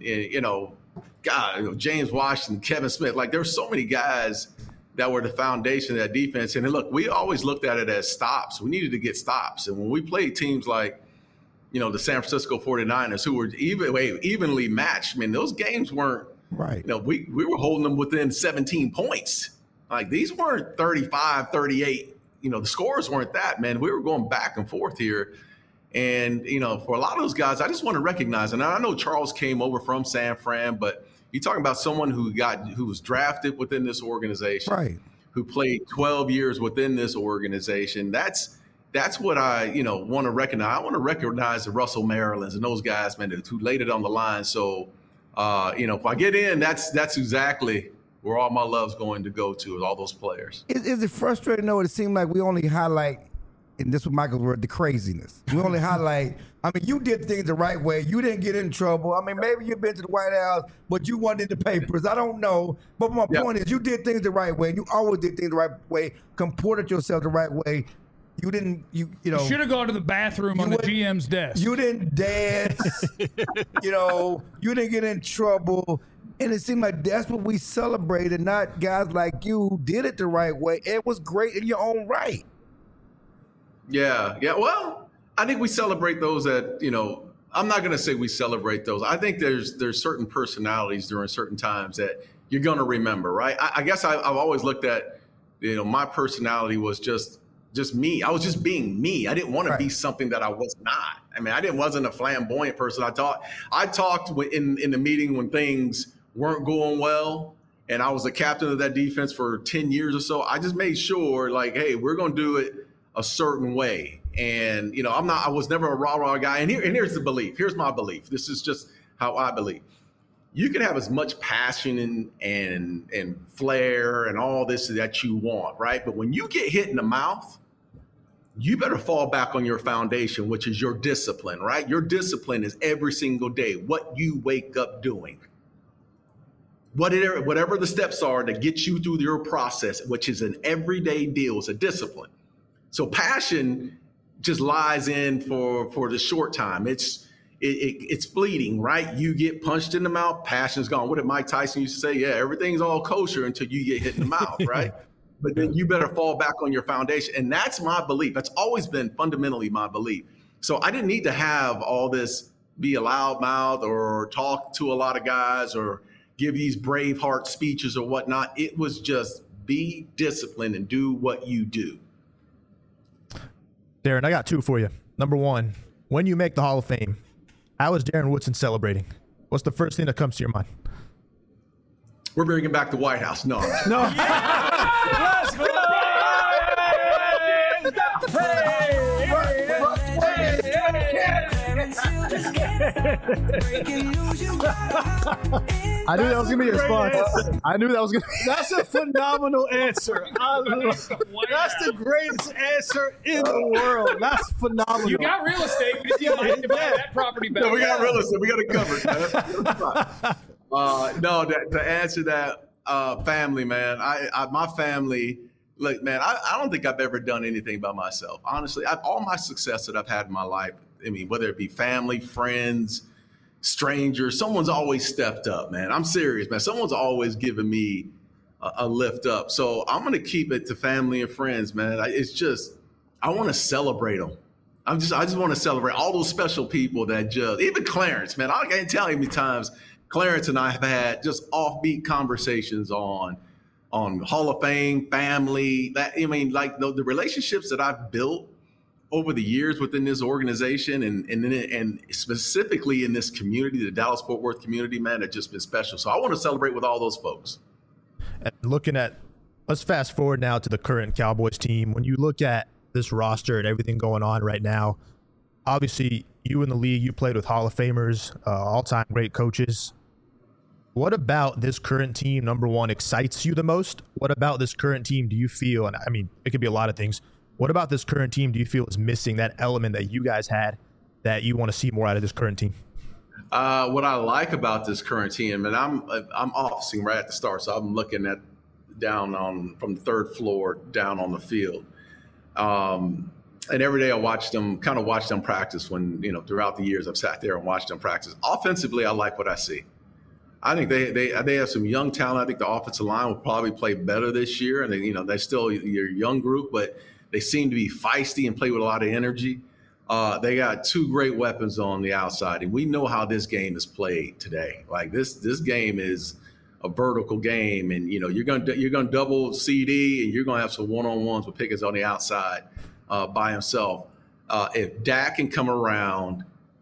James Washington, Kevin Smith. Like, there's so many guys that were the foundation of that defense. And look, we always looked at it as stops. We needed to get stops. And when we played teams like, the San Francisco 49ers, who were evenly matched, I mean, those games weren't, right. We were holding them within 17 points. Like, these weren't 35, 38. The scores weren't that, man. We were going back and forth here. And, for a lot of those guys, I just want to recognize, and I know Charles came over from San Fran, but you're talking about someone who was drafted within this organization, right, who played 12 years within this organization. That's what I, want to recognize. I want to recognize the Russell Marylands and those guys, man, who laid it on the line. So, if I get in, that's exactly where all my love's going to go to, is all those players. Is it frustrating, though? It seemed like we only highlight, and this was Michael's word, the craziness. We only highlight, you did things the right way. You didn't get in trouble. Maybe you've been to the White House, but you weren't in the papers. I don't know. But my point is, you did things the right way. You always did things the right way, comported yourself the right way. You didn't, you should have gone to the bathroom on the GM's desk. You didn't dance. You didn't get in trouble. And it seemed like that's what we celebrated, not guys like you who did it the right way. It was great in your own right. Yeah. Well, I think we celebrate those that, I'm not going to say we celebrate those. I think there's certain personalities during certain times that you're going to remember, right? I guess I've always looked at, my personality was just me. I was just being me. I didn't want to be something that I was not. I wasn't a flamboyant person. I talked in the meeting when things weren't going well, and I was the captain of that defense for 10 years or so. I just made sure, like, hey, we're going to do it a certain way. And, I was never a rah-rah guy. And here's the belief. Here's my belief. This is just how I believe. You can have as much passion and flair and all this that you want, right? But when you get hit in the mouth, you better fall back on your foundation, which is your discipline, right? Your discipline is every single day, what you wake up doing. Whatever the steps are to get you through your process, which is an everyday deal, it's a discipline. So passion just lies in for the short time. It's fleeting, right? You get punched in the mouth, passion's gone. What did Mike Tyson used to say? Yeah, everything's all kosher until you get hit in the mouth, right? But then you better fall back on your foundation. And that's my belief. That's always been fundamentally my belief. So I didn't need to have all this, be a loudmouth or talk to a lot of guys or give these Braveheart speeches or whatnot. It was just be disciplined and do what you do. Darren, I got two for you. Number one, when you make the Hall of Fame, how is Darren Woodson celebrating? What's the first thing that comes to your mind? We're bringing back the White House. No. No. Let's go! I knew that was going to be a response. I knew that was going to be. That's a phenomenal answer. That's the greatest answer in the world. That's phenomenal. You got real estate. If you like to buy that property back. No, we got real estate. We got it covered. No, to answer that, Family, man. My family. Look, man, I don't think I've ever done anything by myself. Honestly, all my success that I've had in my life, I mean, whether it be family, friends, strangers, someone's always stepped up, man. I'm serious, man. Someone's always given me a lift up. So I'm going to keep it to family and friends, man. I want to celebrate them. I just want to celebrate all those special people that even Clarence, man. I can't tell you how many times Clarence and I have had just offbeat conversations on Hall of Fame, family. The relationships that I've built over the years within this organization and specifically in this community, the Dallas-Fort Worth community, man, have just been special. So I want to celebrate with all those folks. And let's fast forward now to the current Cowboys team. When you look at this roster and everything going on right now, obviously you in the league, you played with Hall of Famers, all-time great coaches. What about this current team, number one, excites you the most? What about this current team do you feel, and I mean, it could be a lot of things. What about this current team do you feel is missing that element that you guys had that you want to see more out of this current team? What I like about this current team, and I'm officing right at the start, so I'm looking at from the third floor down on the field. And every day I watch them practice when, throughout the years I've sat there and watched them practice. Offensively, I like what I see. I think they have some young talent. I think the offensive line will probably play better this year. And they're still your young group, but they seem to be feisty and play with a lot of energy. They got two great weapons on the outside, and we know how this game is played today. Like this game is a vertical game, and you're gonna double CD, and you're gonna have some one-on-ones with Pickens on the outside by himself. If Dak can come around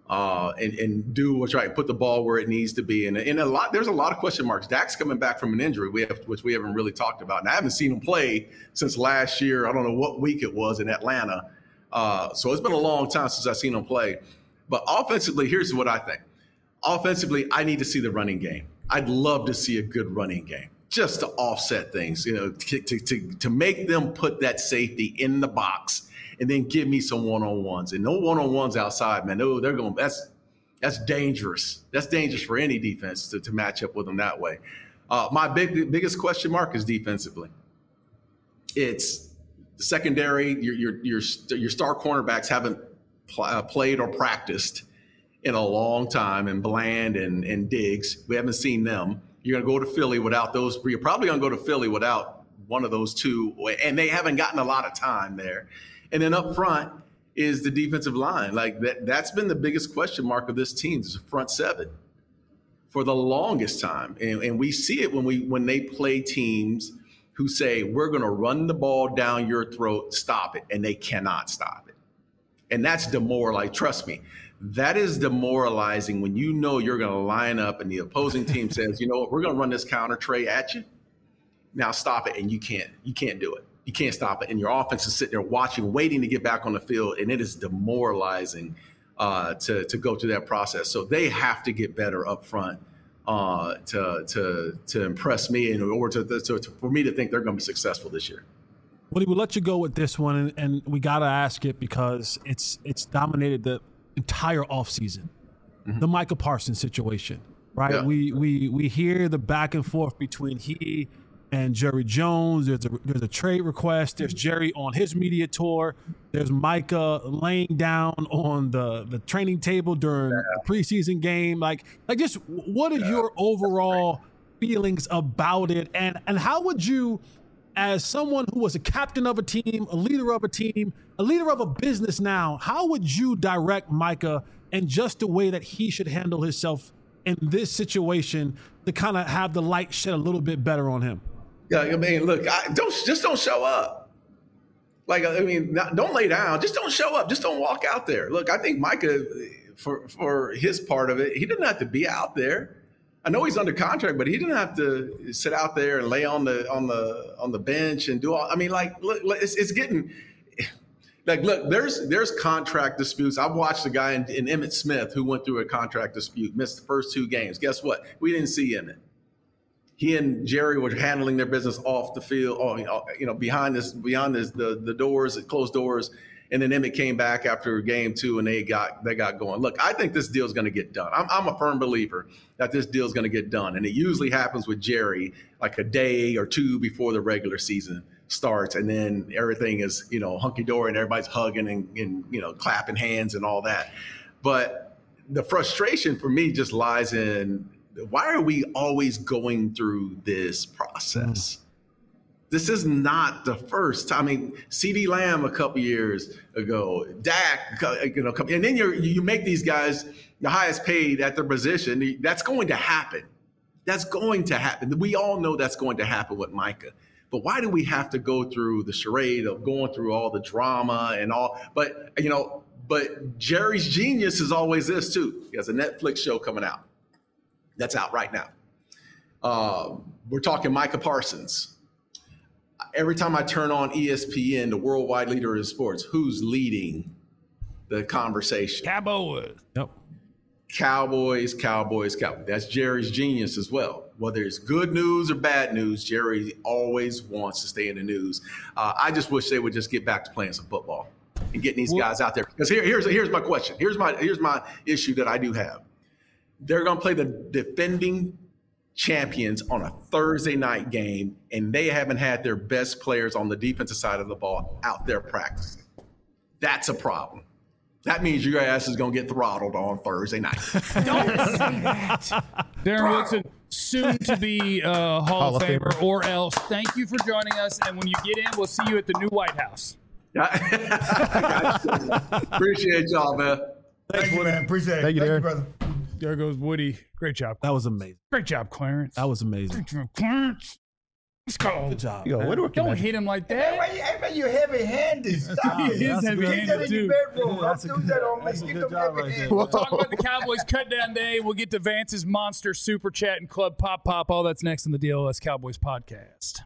and do what's right, put the ball where it needs to be, and there's a lot of question marks. Dak's coming back from an injury which we haven't really talked about, and I haven't seen him play since last year. I don't know what week it was in Atlanta. So it's been a long time since I've seen him play. But offensively, here's what I think. Offensively, I need to see the running game. I'd love to see a good running game just to offset things, to make them put that safety in the box and then give me some one-on-ones. And no one-on-ones outside, man. No, that's dangerous. That's dangerous for any defense to match up with them that way. My biggest question mark is defensively. It's the secondary. Your star cornerbacks haven't played or practiced in a long time, and Bland and Diggs. We haven't seen them. You're going to go to Philly without those. You're probably going to go to Philly without one of those two, and they haven't gotten a lot of time there. And then up front is the defensive line. Like that's been the biggest question mark of this team, is the front seven for the longest time. And we see it when they play teams who say, we're going to run the ball down your throat, stop it. And they cannot stop it. And that's demoralizing. Trust me, that is demoralizing when you know you're going to line up and the opposing team says, you know what, we're going to run this counter tray at you. Now stop it. And you can't do it. You can't stop it. And your offense is sitting there watching, waiting to get back on the field. And it is demoralizing to go through that process. So they have to get better up front to impress me in order for me to think they're going to be successful this year. Woody, we'll let you go with this one, and we got to ask it because it's dominated the entire offseason. Mm-hmm. The Micah Parsons situation, right? Yeah. We hear the back and forth between he and Jerry Jones. There's a trade request. There's Jerry on his media tour. There's Micah laying down on the training table during the preseason game. Like just what are your overall feelings about it? And how would you, as someone who was a captain of a team, a leader of a business now, how would you direct Micah and just the way that he should handle himself in this situation to kind of have the light shed a little bit better on him? Yeah, I mean, look, don't show up. Like, I mean, don't lay down. Just don't show up. Just don't walk out there. Look, I think Micah, for his part of it, he didn't have to be out there. I know he's under contract, but he didn't have to sit out there and lay on the bench and do all. I mean, like, look, it's getting like, look, there's contract disputes. I've watched a guy in Emmitt Smith who went through a contract dispute, missed the first 2 games. Guess what? We didn't see Emmitt. He and Jerry were handling their business off the field, behind the doors, closed doors, And then Emmett came back after game 2 and they got going. Look, I think this deal is going to get done. I'm a firm believer that this deal is going to get done. And it usually happens with Jerry like a day or two before the regular season starts. And then everything is, hunky-dory and everybody's hugging and clapping hands and all that. But the frustration for me just lies in, why are we always going through this process? This is not the first time. I mean, CeeDee Lamb a couple years ago, Dak, and then you make these guys the highest paid at their position. That's going to happen. That's going to happen. We all know that's going to happen with Micah. But why do we have to go through the charade of going through all the drama and all? But Jerry's genius is always this too. He has a Netflix show coming out. That's out right now. We're talking Micah Parsons. Every time I turn on ESPN, the worldwide leader in sports, who's leading the conversation? Cowboys. Yep. Cowboys. That's Jerry's genius as well. Whether it's good news or bad news, Jerry always wants to stay in the news. I just wish they would just get back to playing some football and getting these guys out there. Because here's my question. Here's my issue that I do have. They're going to play the defending champions on a Thursday night game, and they haven't had their best players on the defensive side of the ball out there practicing. That's a problem. That means your ass is going to get throttled on Thursday night. Don't say that. Darren Woodson, soon to be Hall of Famer or else. Thank you for joining us, and when you get in, we'll see you at the new White House. Appreciate y'all, man. Thank you, man. Appreciate it. Thank you, Darren. brother. There goes Woody. Great job. That was amazing. Great job, Clarence. That was amazing. Great job, Clarence. Let's go. Good job. Yo, man. woodworking Don't magic. hit him like Hey, that. man, you're heavy-handed. Stop He it. is Keep that heavy-handed, in too. your bedroom. That's a Don't do that on me. that's a Get good them job right heavy-handed. there. We'll talk about the Cowboys cut down day. We'll get to Vance's Monster Super Chat and Club Pop. All that's next on the DLS Cowboys podcast.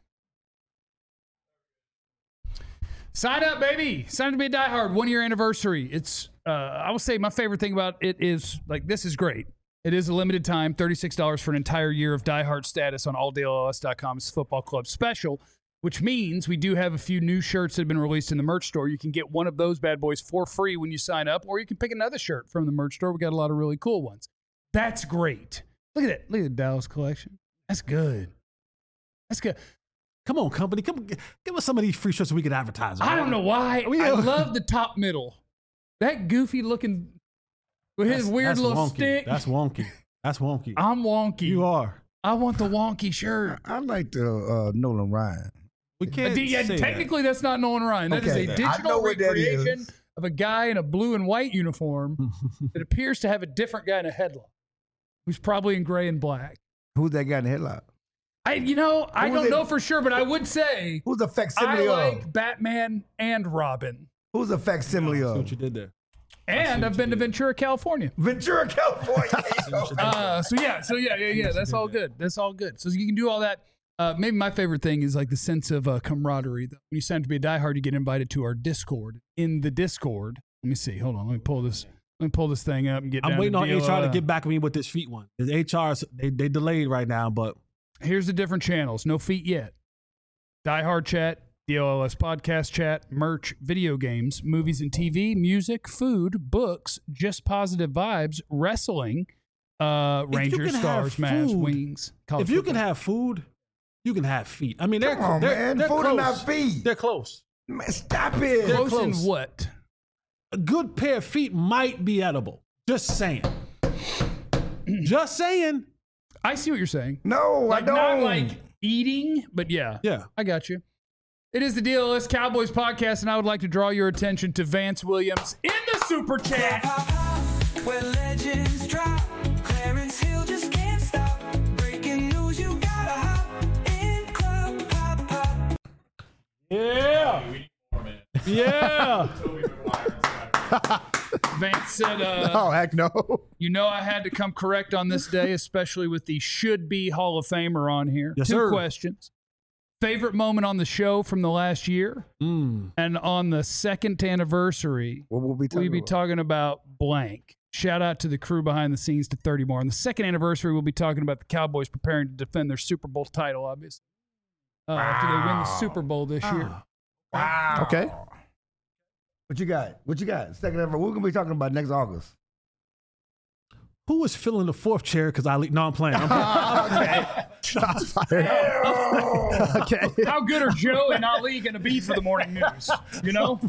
Sign up, baby. Sign up to be a diehard. 1 year anniversary. It's, I will say my favorite thing about it is, this is great. It is a limited time, $36 for an entire year of diehard status on alldls.com. It's a football club special, which means we do have a few new shirts that have been released in the merch store. You can get one of those bad boys for free when you sign up, or you can pick another shirt from the merch store. We got a lot of really cool ones. That's great. Look at that. Look at the Dallas collection. That's good. That's good. Come on, company. Come give us some of these free shirts so we can advertise them. I don't know why. I love the top middle. That goofy looking with his weird that's little wonky. stick. That's wonky. That's wonky. I'm wonky. You are. I want the wonky shirt. I like the Nolan Ryan. We can't say Technically, that's not Nolan Ryan. That is Okay, a I know digital what that recreation is. of a guy in a blue and white uniform that appears to have a different guy in a headlock, who's probably in gray and black. Who's that guy in the headlock? I Who don't was it? know for sure, but I would say Who's the I facsimile like of? Batman and Robin. Who's the facsimile See of? what you did there. And I've been to Ventura, California. Ventura, California. So yeah. That's all good. That's all good. So you can do all that. Maybe my favorite thing is like the sense of camaraderie. When you sign up to be a diehard, you get invited to our Discord. In the Discord, let me see. Hold on. Let me pull this thing up and get. I'm down waiting to on DLL. HR to get back with me with this feet one. The HR, they delayed right now, but Here's the different channels. No feet yet. Diehard chat, DLS podcast chat, merch, video games, movies and TV, music, food, books, just positive vibes, wrestling, Rangers, can Stars, have Mavs, food- Wings. college if you can football. have food, you can have feet. I mean, they're Come on, they're, man. They're Food close. and not feet. They're close. Man, stop it. They're close in close. what? A good pair of feet might be edible. Just saying. Just saying. I see what you're saying. No, Like I don't. not like eating, but yeah. Yeah. I got you. It is the DLS Cowboys podcast, and I would like to draw your attention to Vance Williams in the super chat. Where legends drop, Clarence Hill just can't stop. Breaking news, you gotta hop in Club Pop. Yeah. Yeah. Vance said, Oh, heck no. you know I had to come correct on this day, especially with the should-be Hall of Famer on here. Yes, Two sir. questions. Favorite moment on the show from the last year? Mm. And on the second anniversary, What will we we'll be talking about blank. Shout out to the crew behind the scenes to 30 more. On the second anniversary, we'll be talking about the Cowboys preparing to defend their Super Bowl title, obviously. After they win the Super Bowl this year. Wow. Okay. What you got? What you got? Second ever. We're gonna be talking about next August. Who was filling the fourth chair? Because no, I'm playing. Okay. Shots fired. Okay. How good are Joe and Ali going to be for the morning news? You know?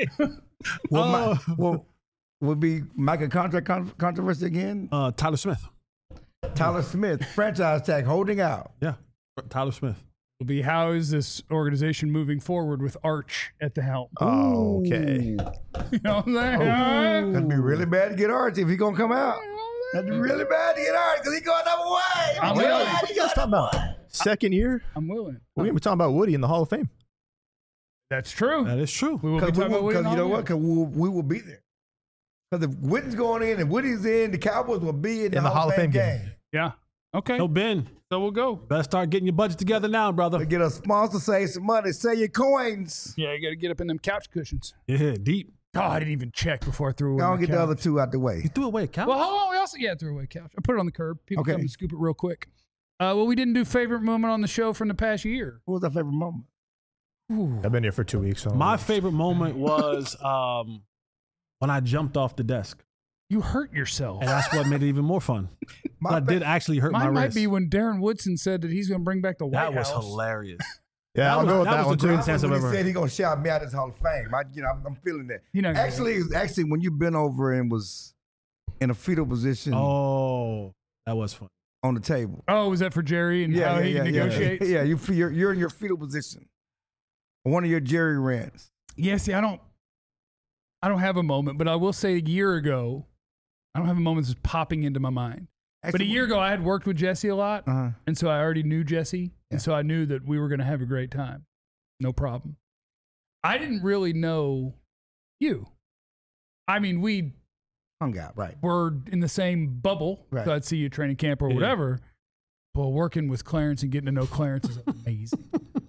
Will be Micah contract controversy again? Tyler Smith. Tyler Smith, franchise tag, holding out. Yeah, Tyler Smith. Will be how is this organization moving forward with Arch at the helm? Okay. You know what I'm saying? That'd be really bad to get Arch if he gonna come out. That'd be really bad to get Arch because he going another way. I'm Really willing. bad What are you guys talking about? Second year? I'm willing. We're going to be talking about Woody in the Hall of Fame. That's true. That is true. We will be Because talking about William you know Hall. what? Because we will be there. Because if Wooden's going in and Woody's in, the Cowboys will be in the Hall of Fame game. Yeah. Okay. No, Ben. So we'll go. Better start getting your budget together now, brother. To get a sponsor, save some money, sell your coins. Yeah, you got to get up in them couch cushions. Yeah, deep. Oh, I didn't even check before I threw away I'll my get couch. the other two out the way. You threw away a couch. Well, hold on. We also threw away a couch. I put it on the curb. People Okay. come and scoop it real quick. Well, we didn't do favorite moment on the show from the past year. What was our favorite moment? Ooh. I've been here for 2 weeks. So My favorite moment was when I jumped off the desk, You hurt yourself. and that's what made it even more fun. My But I did actually hurt my Mine might wrist. be when Darren Woodson said that he's going to bring back the White That was House. hilarious. yeah, I'll go with that was one the too. greatest answer when I've he ever said heard. he's gonna shout me out his Hall of Fame. I'm feeling that. He not gonna Actually, when you've been over and was in a fetal position Oh, that was fun. on the table. Oh, was that for Jerry and how he negotiates? Yeah, you're in your fetal position. One of your Jerry rants. Yeah, see, I don't have a moment, but I will say a year ago, I don't have a moment that's popping into my mind. But a year ago, I had worked with Jesse a lot, Uh-huh. and so I already knew Jesse, Yeah. and so I knew that we were going to have a great time. No problem. I didn't really know you. I mean, we Hung out, right? were in the same bubble, Right. so I'd see you at training camp or Yeah. whatever. But working with Clarence and getting to know Clarence is amazing.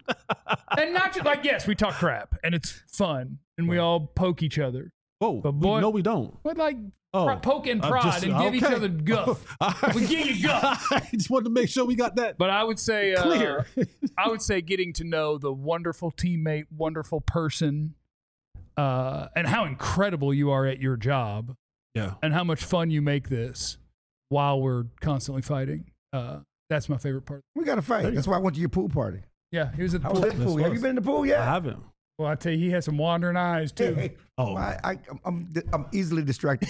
And not just like, yes, we talk crap, and it's fun, and we all poke each other. Whoa, But boy- no, we don't. But like, Oh, poke and I'm prod just- and give each okay. other guff. All right. We give you guff. I just wanted to make sure we got that But I would say clear. I would say getting to know the wonderful teammate, wonderful person, and how incredible you are at your job, Yeah. and how much fun you make this while we're constantly fighting. That's my favorite part. We got to fight. That's why I went to your pool party. Yeah, he was at the I was pool. at the pool. Have you been in the pool I yet? haven't. Well, I tell you, he has some wandering eyes too. Hey, Oh. I'm easily distracted.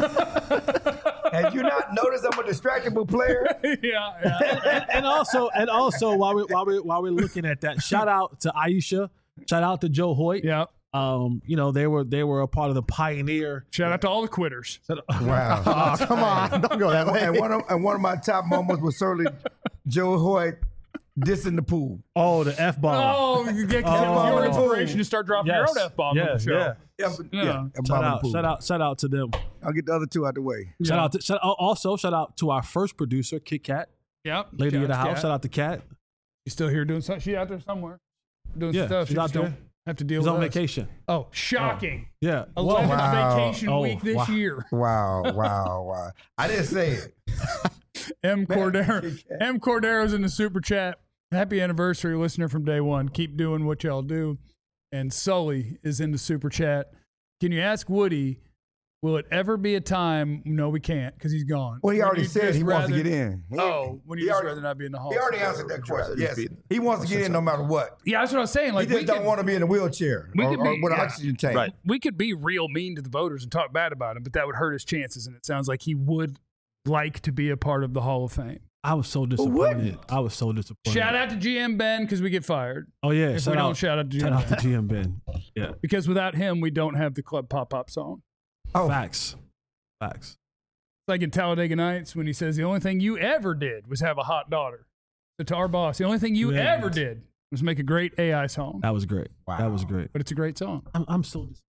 Have you not noticed I'm a distractible player? yeah. And also while we're looking at that, shout out to Aisha, shout out to Joe Hoyt. Yeah. You know, they were a part of the pioneer. Shout out to all the quitters. Wow. Oh, come on. Don't go that way. And one of my top moments was certainly Joe Hoyt dissing the pool. Oh, the F bomb. Oh, you get Oh. your inspiration to start dropping your own F-bomb on the show. Yeah. Yeah, Shout out to them. I'll get the other two out the way. Shout out to our first producer, Kit Kat, Yep. lady Shout of the out to house. Kat. Shout out to Kat. She's still here doing something. She's out there somewhere doing Yeah, stuff. she's She out just there. don't have to deal He's with on us. vacation. Oh, shocking. Yeah. 11th Wow. vacation Oh, week this wow. year. Wow. I didn't say it. M. Cordero's in the super chat. Happy anniversary, listener from day one. Keep doing what y'all do. And Sully is in the super chat. Can you ask Woody, will it ever be a time? No, we can't because he's gone. Well, he When already you said just he wants to rather- get in. When you He just already- rather not be in the hall. He already answered that question. Yes, he wants to get in no matter what. Yeah, that's what I was saying. Like He just we don't could, want to be in a wheelchair we or could be- with an yeah. oxygen tank. Right. we could be real mean to the voters and talk bad about him, but that would hurt his chances. And it sounds like he would like to be a part of the Hall of Fame. I was so disappointed. Shout out to GM Ben because we get fired. Oh yeah. If shout we out, don't shout out to shout GM out to Ben. GM Ben. Yeah. Because without him, we don't have the Club Pop Pop song. Oh, Facts. It's like in Talladega Nights when he says the only thing you ever did was have a hot daughter. So to our boss, the only thing you Yeah. ever did was make a great AI song. That was great. Wow. That was great. But it's a great song. I'm so disappointed.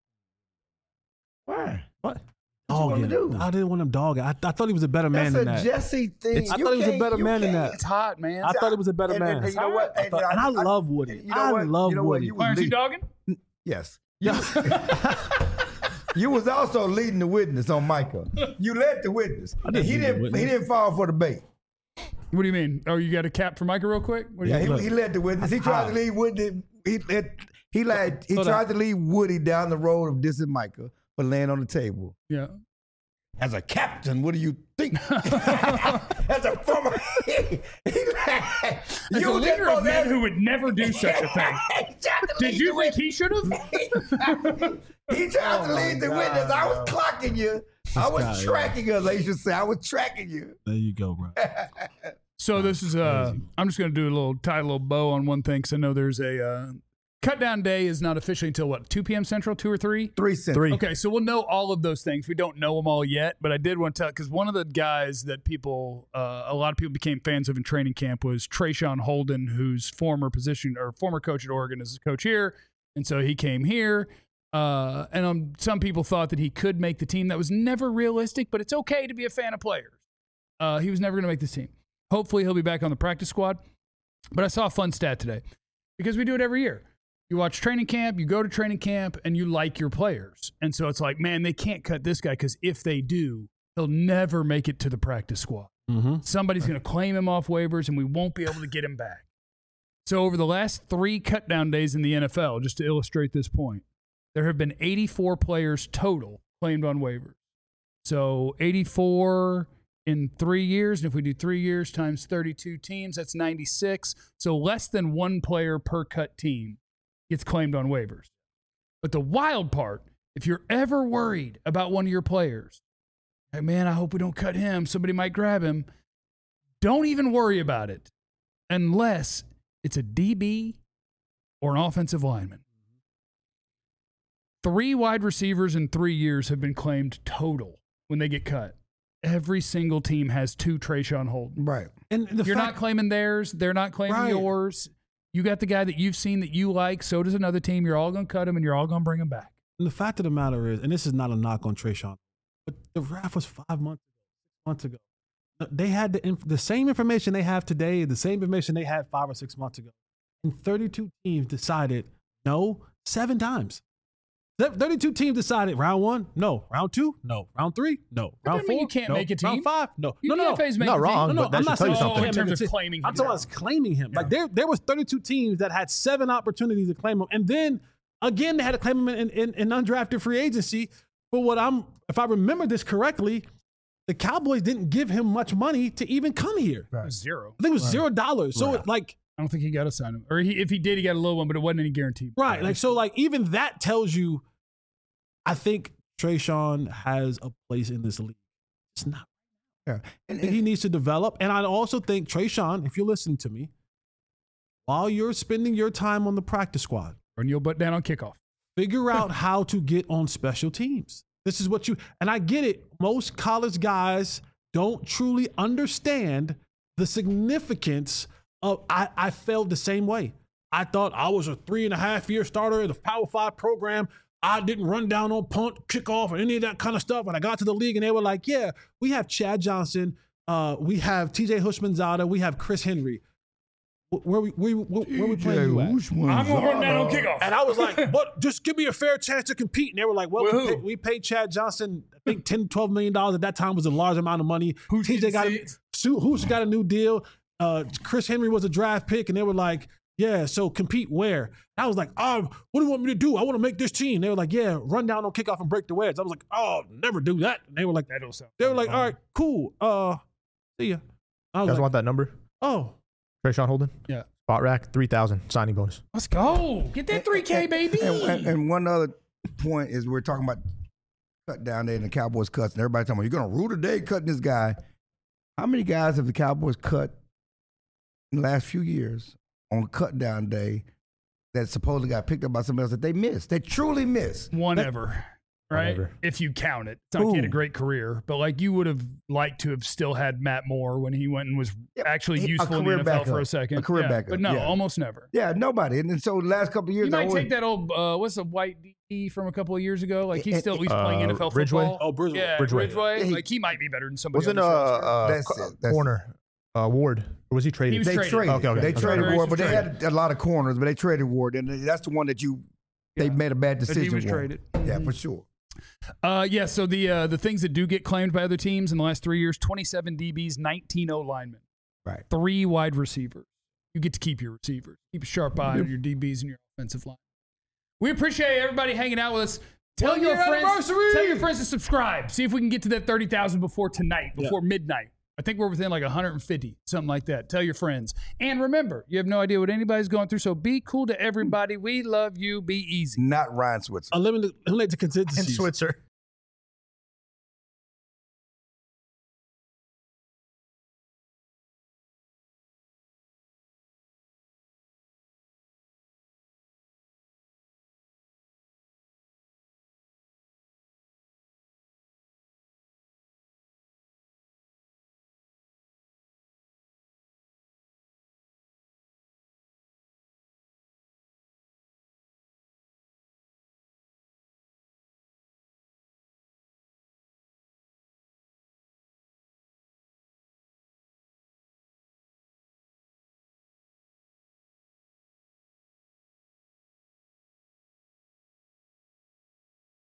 why? What? What you wanna do? I didn't want him dogging. I thought he was a better man That's than a that. Jesse thing. I thought he was a better man than that. It's hot, man. I thought he was a better man. And you know what? And I love Woody. you know I what? love You know what? Woody. You was Clarence, you lead- dogging? Yes. Yeah. You was also leading the witness on Micah. You led the witness. I didn't He lead the didn't. witness. He didn't fall for the bait. What do you mean? Oh, you got a cap for Micah real quick? What do Yeah, you he led the witness. He tried to lead witness. He So tried to lead Woody down the road of dissing Micah, but laying on the table. Yeah. As a captain, what do you think? As a former, As a leader of men who would never do such a thing. Did you think he should have? He tried to lead the witness. I was clocking you. I was guy, tracking you, they should say. I was tracking you. There you go, bro. So this is I'm just going to tie a little bow on one thing because I know there's a cut down day is not officially until what, 2 p.m. Central, 2 or 3? 3 cents. 3. Okay, so we'll know all of those things. We don't know them all yet, but I did want to tell because one of the guys that a lot of people became fans of in training camp was Trayshawn Holden, whose former coach at Oregon is a coach here, and so he came here. Some people thought that he could make the team. That was never realistic, but it's okay to be a fan of players. He was never going to make this team. Hopefully, he'll be back on the practice squad. But I saw a fun stat today because we do it every year. You watch training camp, you go to training camp, and you like your players. And so it's like, man, they can't cut this guy because if they do, he'll never make it to the practice squad. Mm-hmm. Somebody's going to claim him off waivers, and we won't be able to get him back. So over the last 3 cut-down days in the NFL, just to illustrate this point, there have been 84 players total claimed on waivers. So 84 in 3 years, and if we do 3 years times 32 teams, that's 96. So less than 1 player per cut team gets claimed on waivers. But the wild part, if you're ever worried about one of your players, like, man, I hope we don't cut him. Somebody might grab him. Don't even worry about it unless it's a DB or an offensive lineman. 3 wide receivers in 3 years have been claimed total when they get cut. Every single team has 2 Trayshawn Holden. Right. And You're not claiming theirs. They're not claiming yours. You got the guy that you've seen that you like. So does another team. You're all going to cut him, and you're all going to bring him back. And the fact of the matter is, and this is not a knock on Trayshawn, but the draft was 5 months ago, 6 months ago. They had the same information they have today, the same information they had 5 or 6 months ago. And 32 teams decided no 7 times. 32 teams decided round 1, no. Round 2, no. Round 3, no. Round 4, you can't no. make a team. Round 5, no. UDFA's making Not a wrong, team. No, but that I'm should not tell you saying- something. in terms of claiming him. I'm talking about claiming him. Like there was 32 teams that had 7 opportunities to claim him, and then again they had to claim him in undrafted free agency. But if I remember this correctly, the Cowboys didn't give him much money to even come here. It was 0. I think it was $0. So like I don't think he got to sign him. Or if he did, he got a low one, but it wasn't any guarantee. right, like so like even that tells you, I think Trayshawn has a place in this league. It's not. Yeah. I think he needs to develop. And I also think, Trayshawn, if you're listening to me, while you're spending your time on the practice squad, Run your butt down on kickoff. figure out how to get on special teams. This is what and I get it. Most college guys don't truly understand the significance of, I felt the same way. I thought I was a 3.5-year starter in the Power 5 program. I didn't run down on punt, kickoff, or any of that kind of stuff. And I got to the league and they were like, yeah, we have Chad Johnson. We have TJ Hushmanzada. We have Chris Henry. Where we playing you at? I'm going to run down on kickoff. And I was like, but just give me a fair chance to compete. And they were like, well, we paid Chad Johnson, I think $10, $12 million at that time was a large amount of money. TJ got a new deal. Chris Henry was a draft pick. And they were like, yeah, so compete where? And I was like, what do you want me to do? I want to make this team. They were like, yeah, run down on kickoff and break the wedge. I was like, never do that. And they were like, all right, cool. See ya. I was You guys like, want that number? Trayshawn Holden? Yeah. Spot rack, 3,000 signing bonus. Let's go. Get that 3K, baby. And one other point is we're talking about cut down there and the Cowboys cuts, and everybody talking about, you're going to rule today cutting this guy. How many guys have the Cowboys cut in the last few years on cut down day that supposedly got picked up by somebody else that they missed? They truly missed. One ever, right? Whatever. If you count it. It's not like he had a great career, but like you would have liked to have still had Matt Moore when he went and was actually useful in the NFL backup. for a second. A career backup, But no, yeah. almost never. Yeah, nobody. And so the last couple of years, You might take that old, what's the white DB from a couple of years ago? Like he's still at least playing NFL Ridgeway? football. Oh, Bridgeway. Yeah, Ridgeway. Ridgeway. Yeah, Like he might be better than somebody Wasn't on this roster. That's corner Ward? Or was he traded? He was They traded. traded. Okay. They Okay. traded Very Ward, but they traded. had a lot of corners, but they traded Ward, and that's the one that they made a bad But decision. he was for. traded. Yeah, for sure. Yeah, so the things that do get claimed by other teams in the last 3 years, 27 DBs, 19 O-linemen. Right. 3 wide receivers. You get to keep your receivers. Keep a sharp eye on your DBs and your offensive line. We appreciate everybody hanging out with us. Tell your friends to subscribe. See if we can get to that 30,000 before tonight, before midnight. I think we're within like 150, something like that. Tell your friends. And remember, you have no idea what anybody's going through, so be cool to everybody. We love you. Be easy. Not Ryan Switzer. Eliminate the contingencies. And Switzer.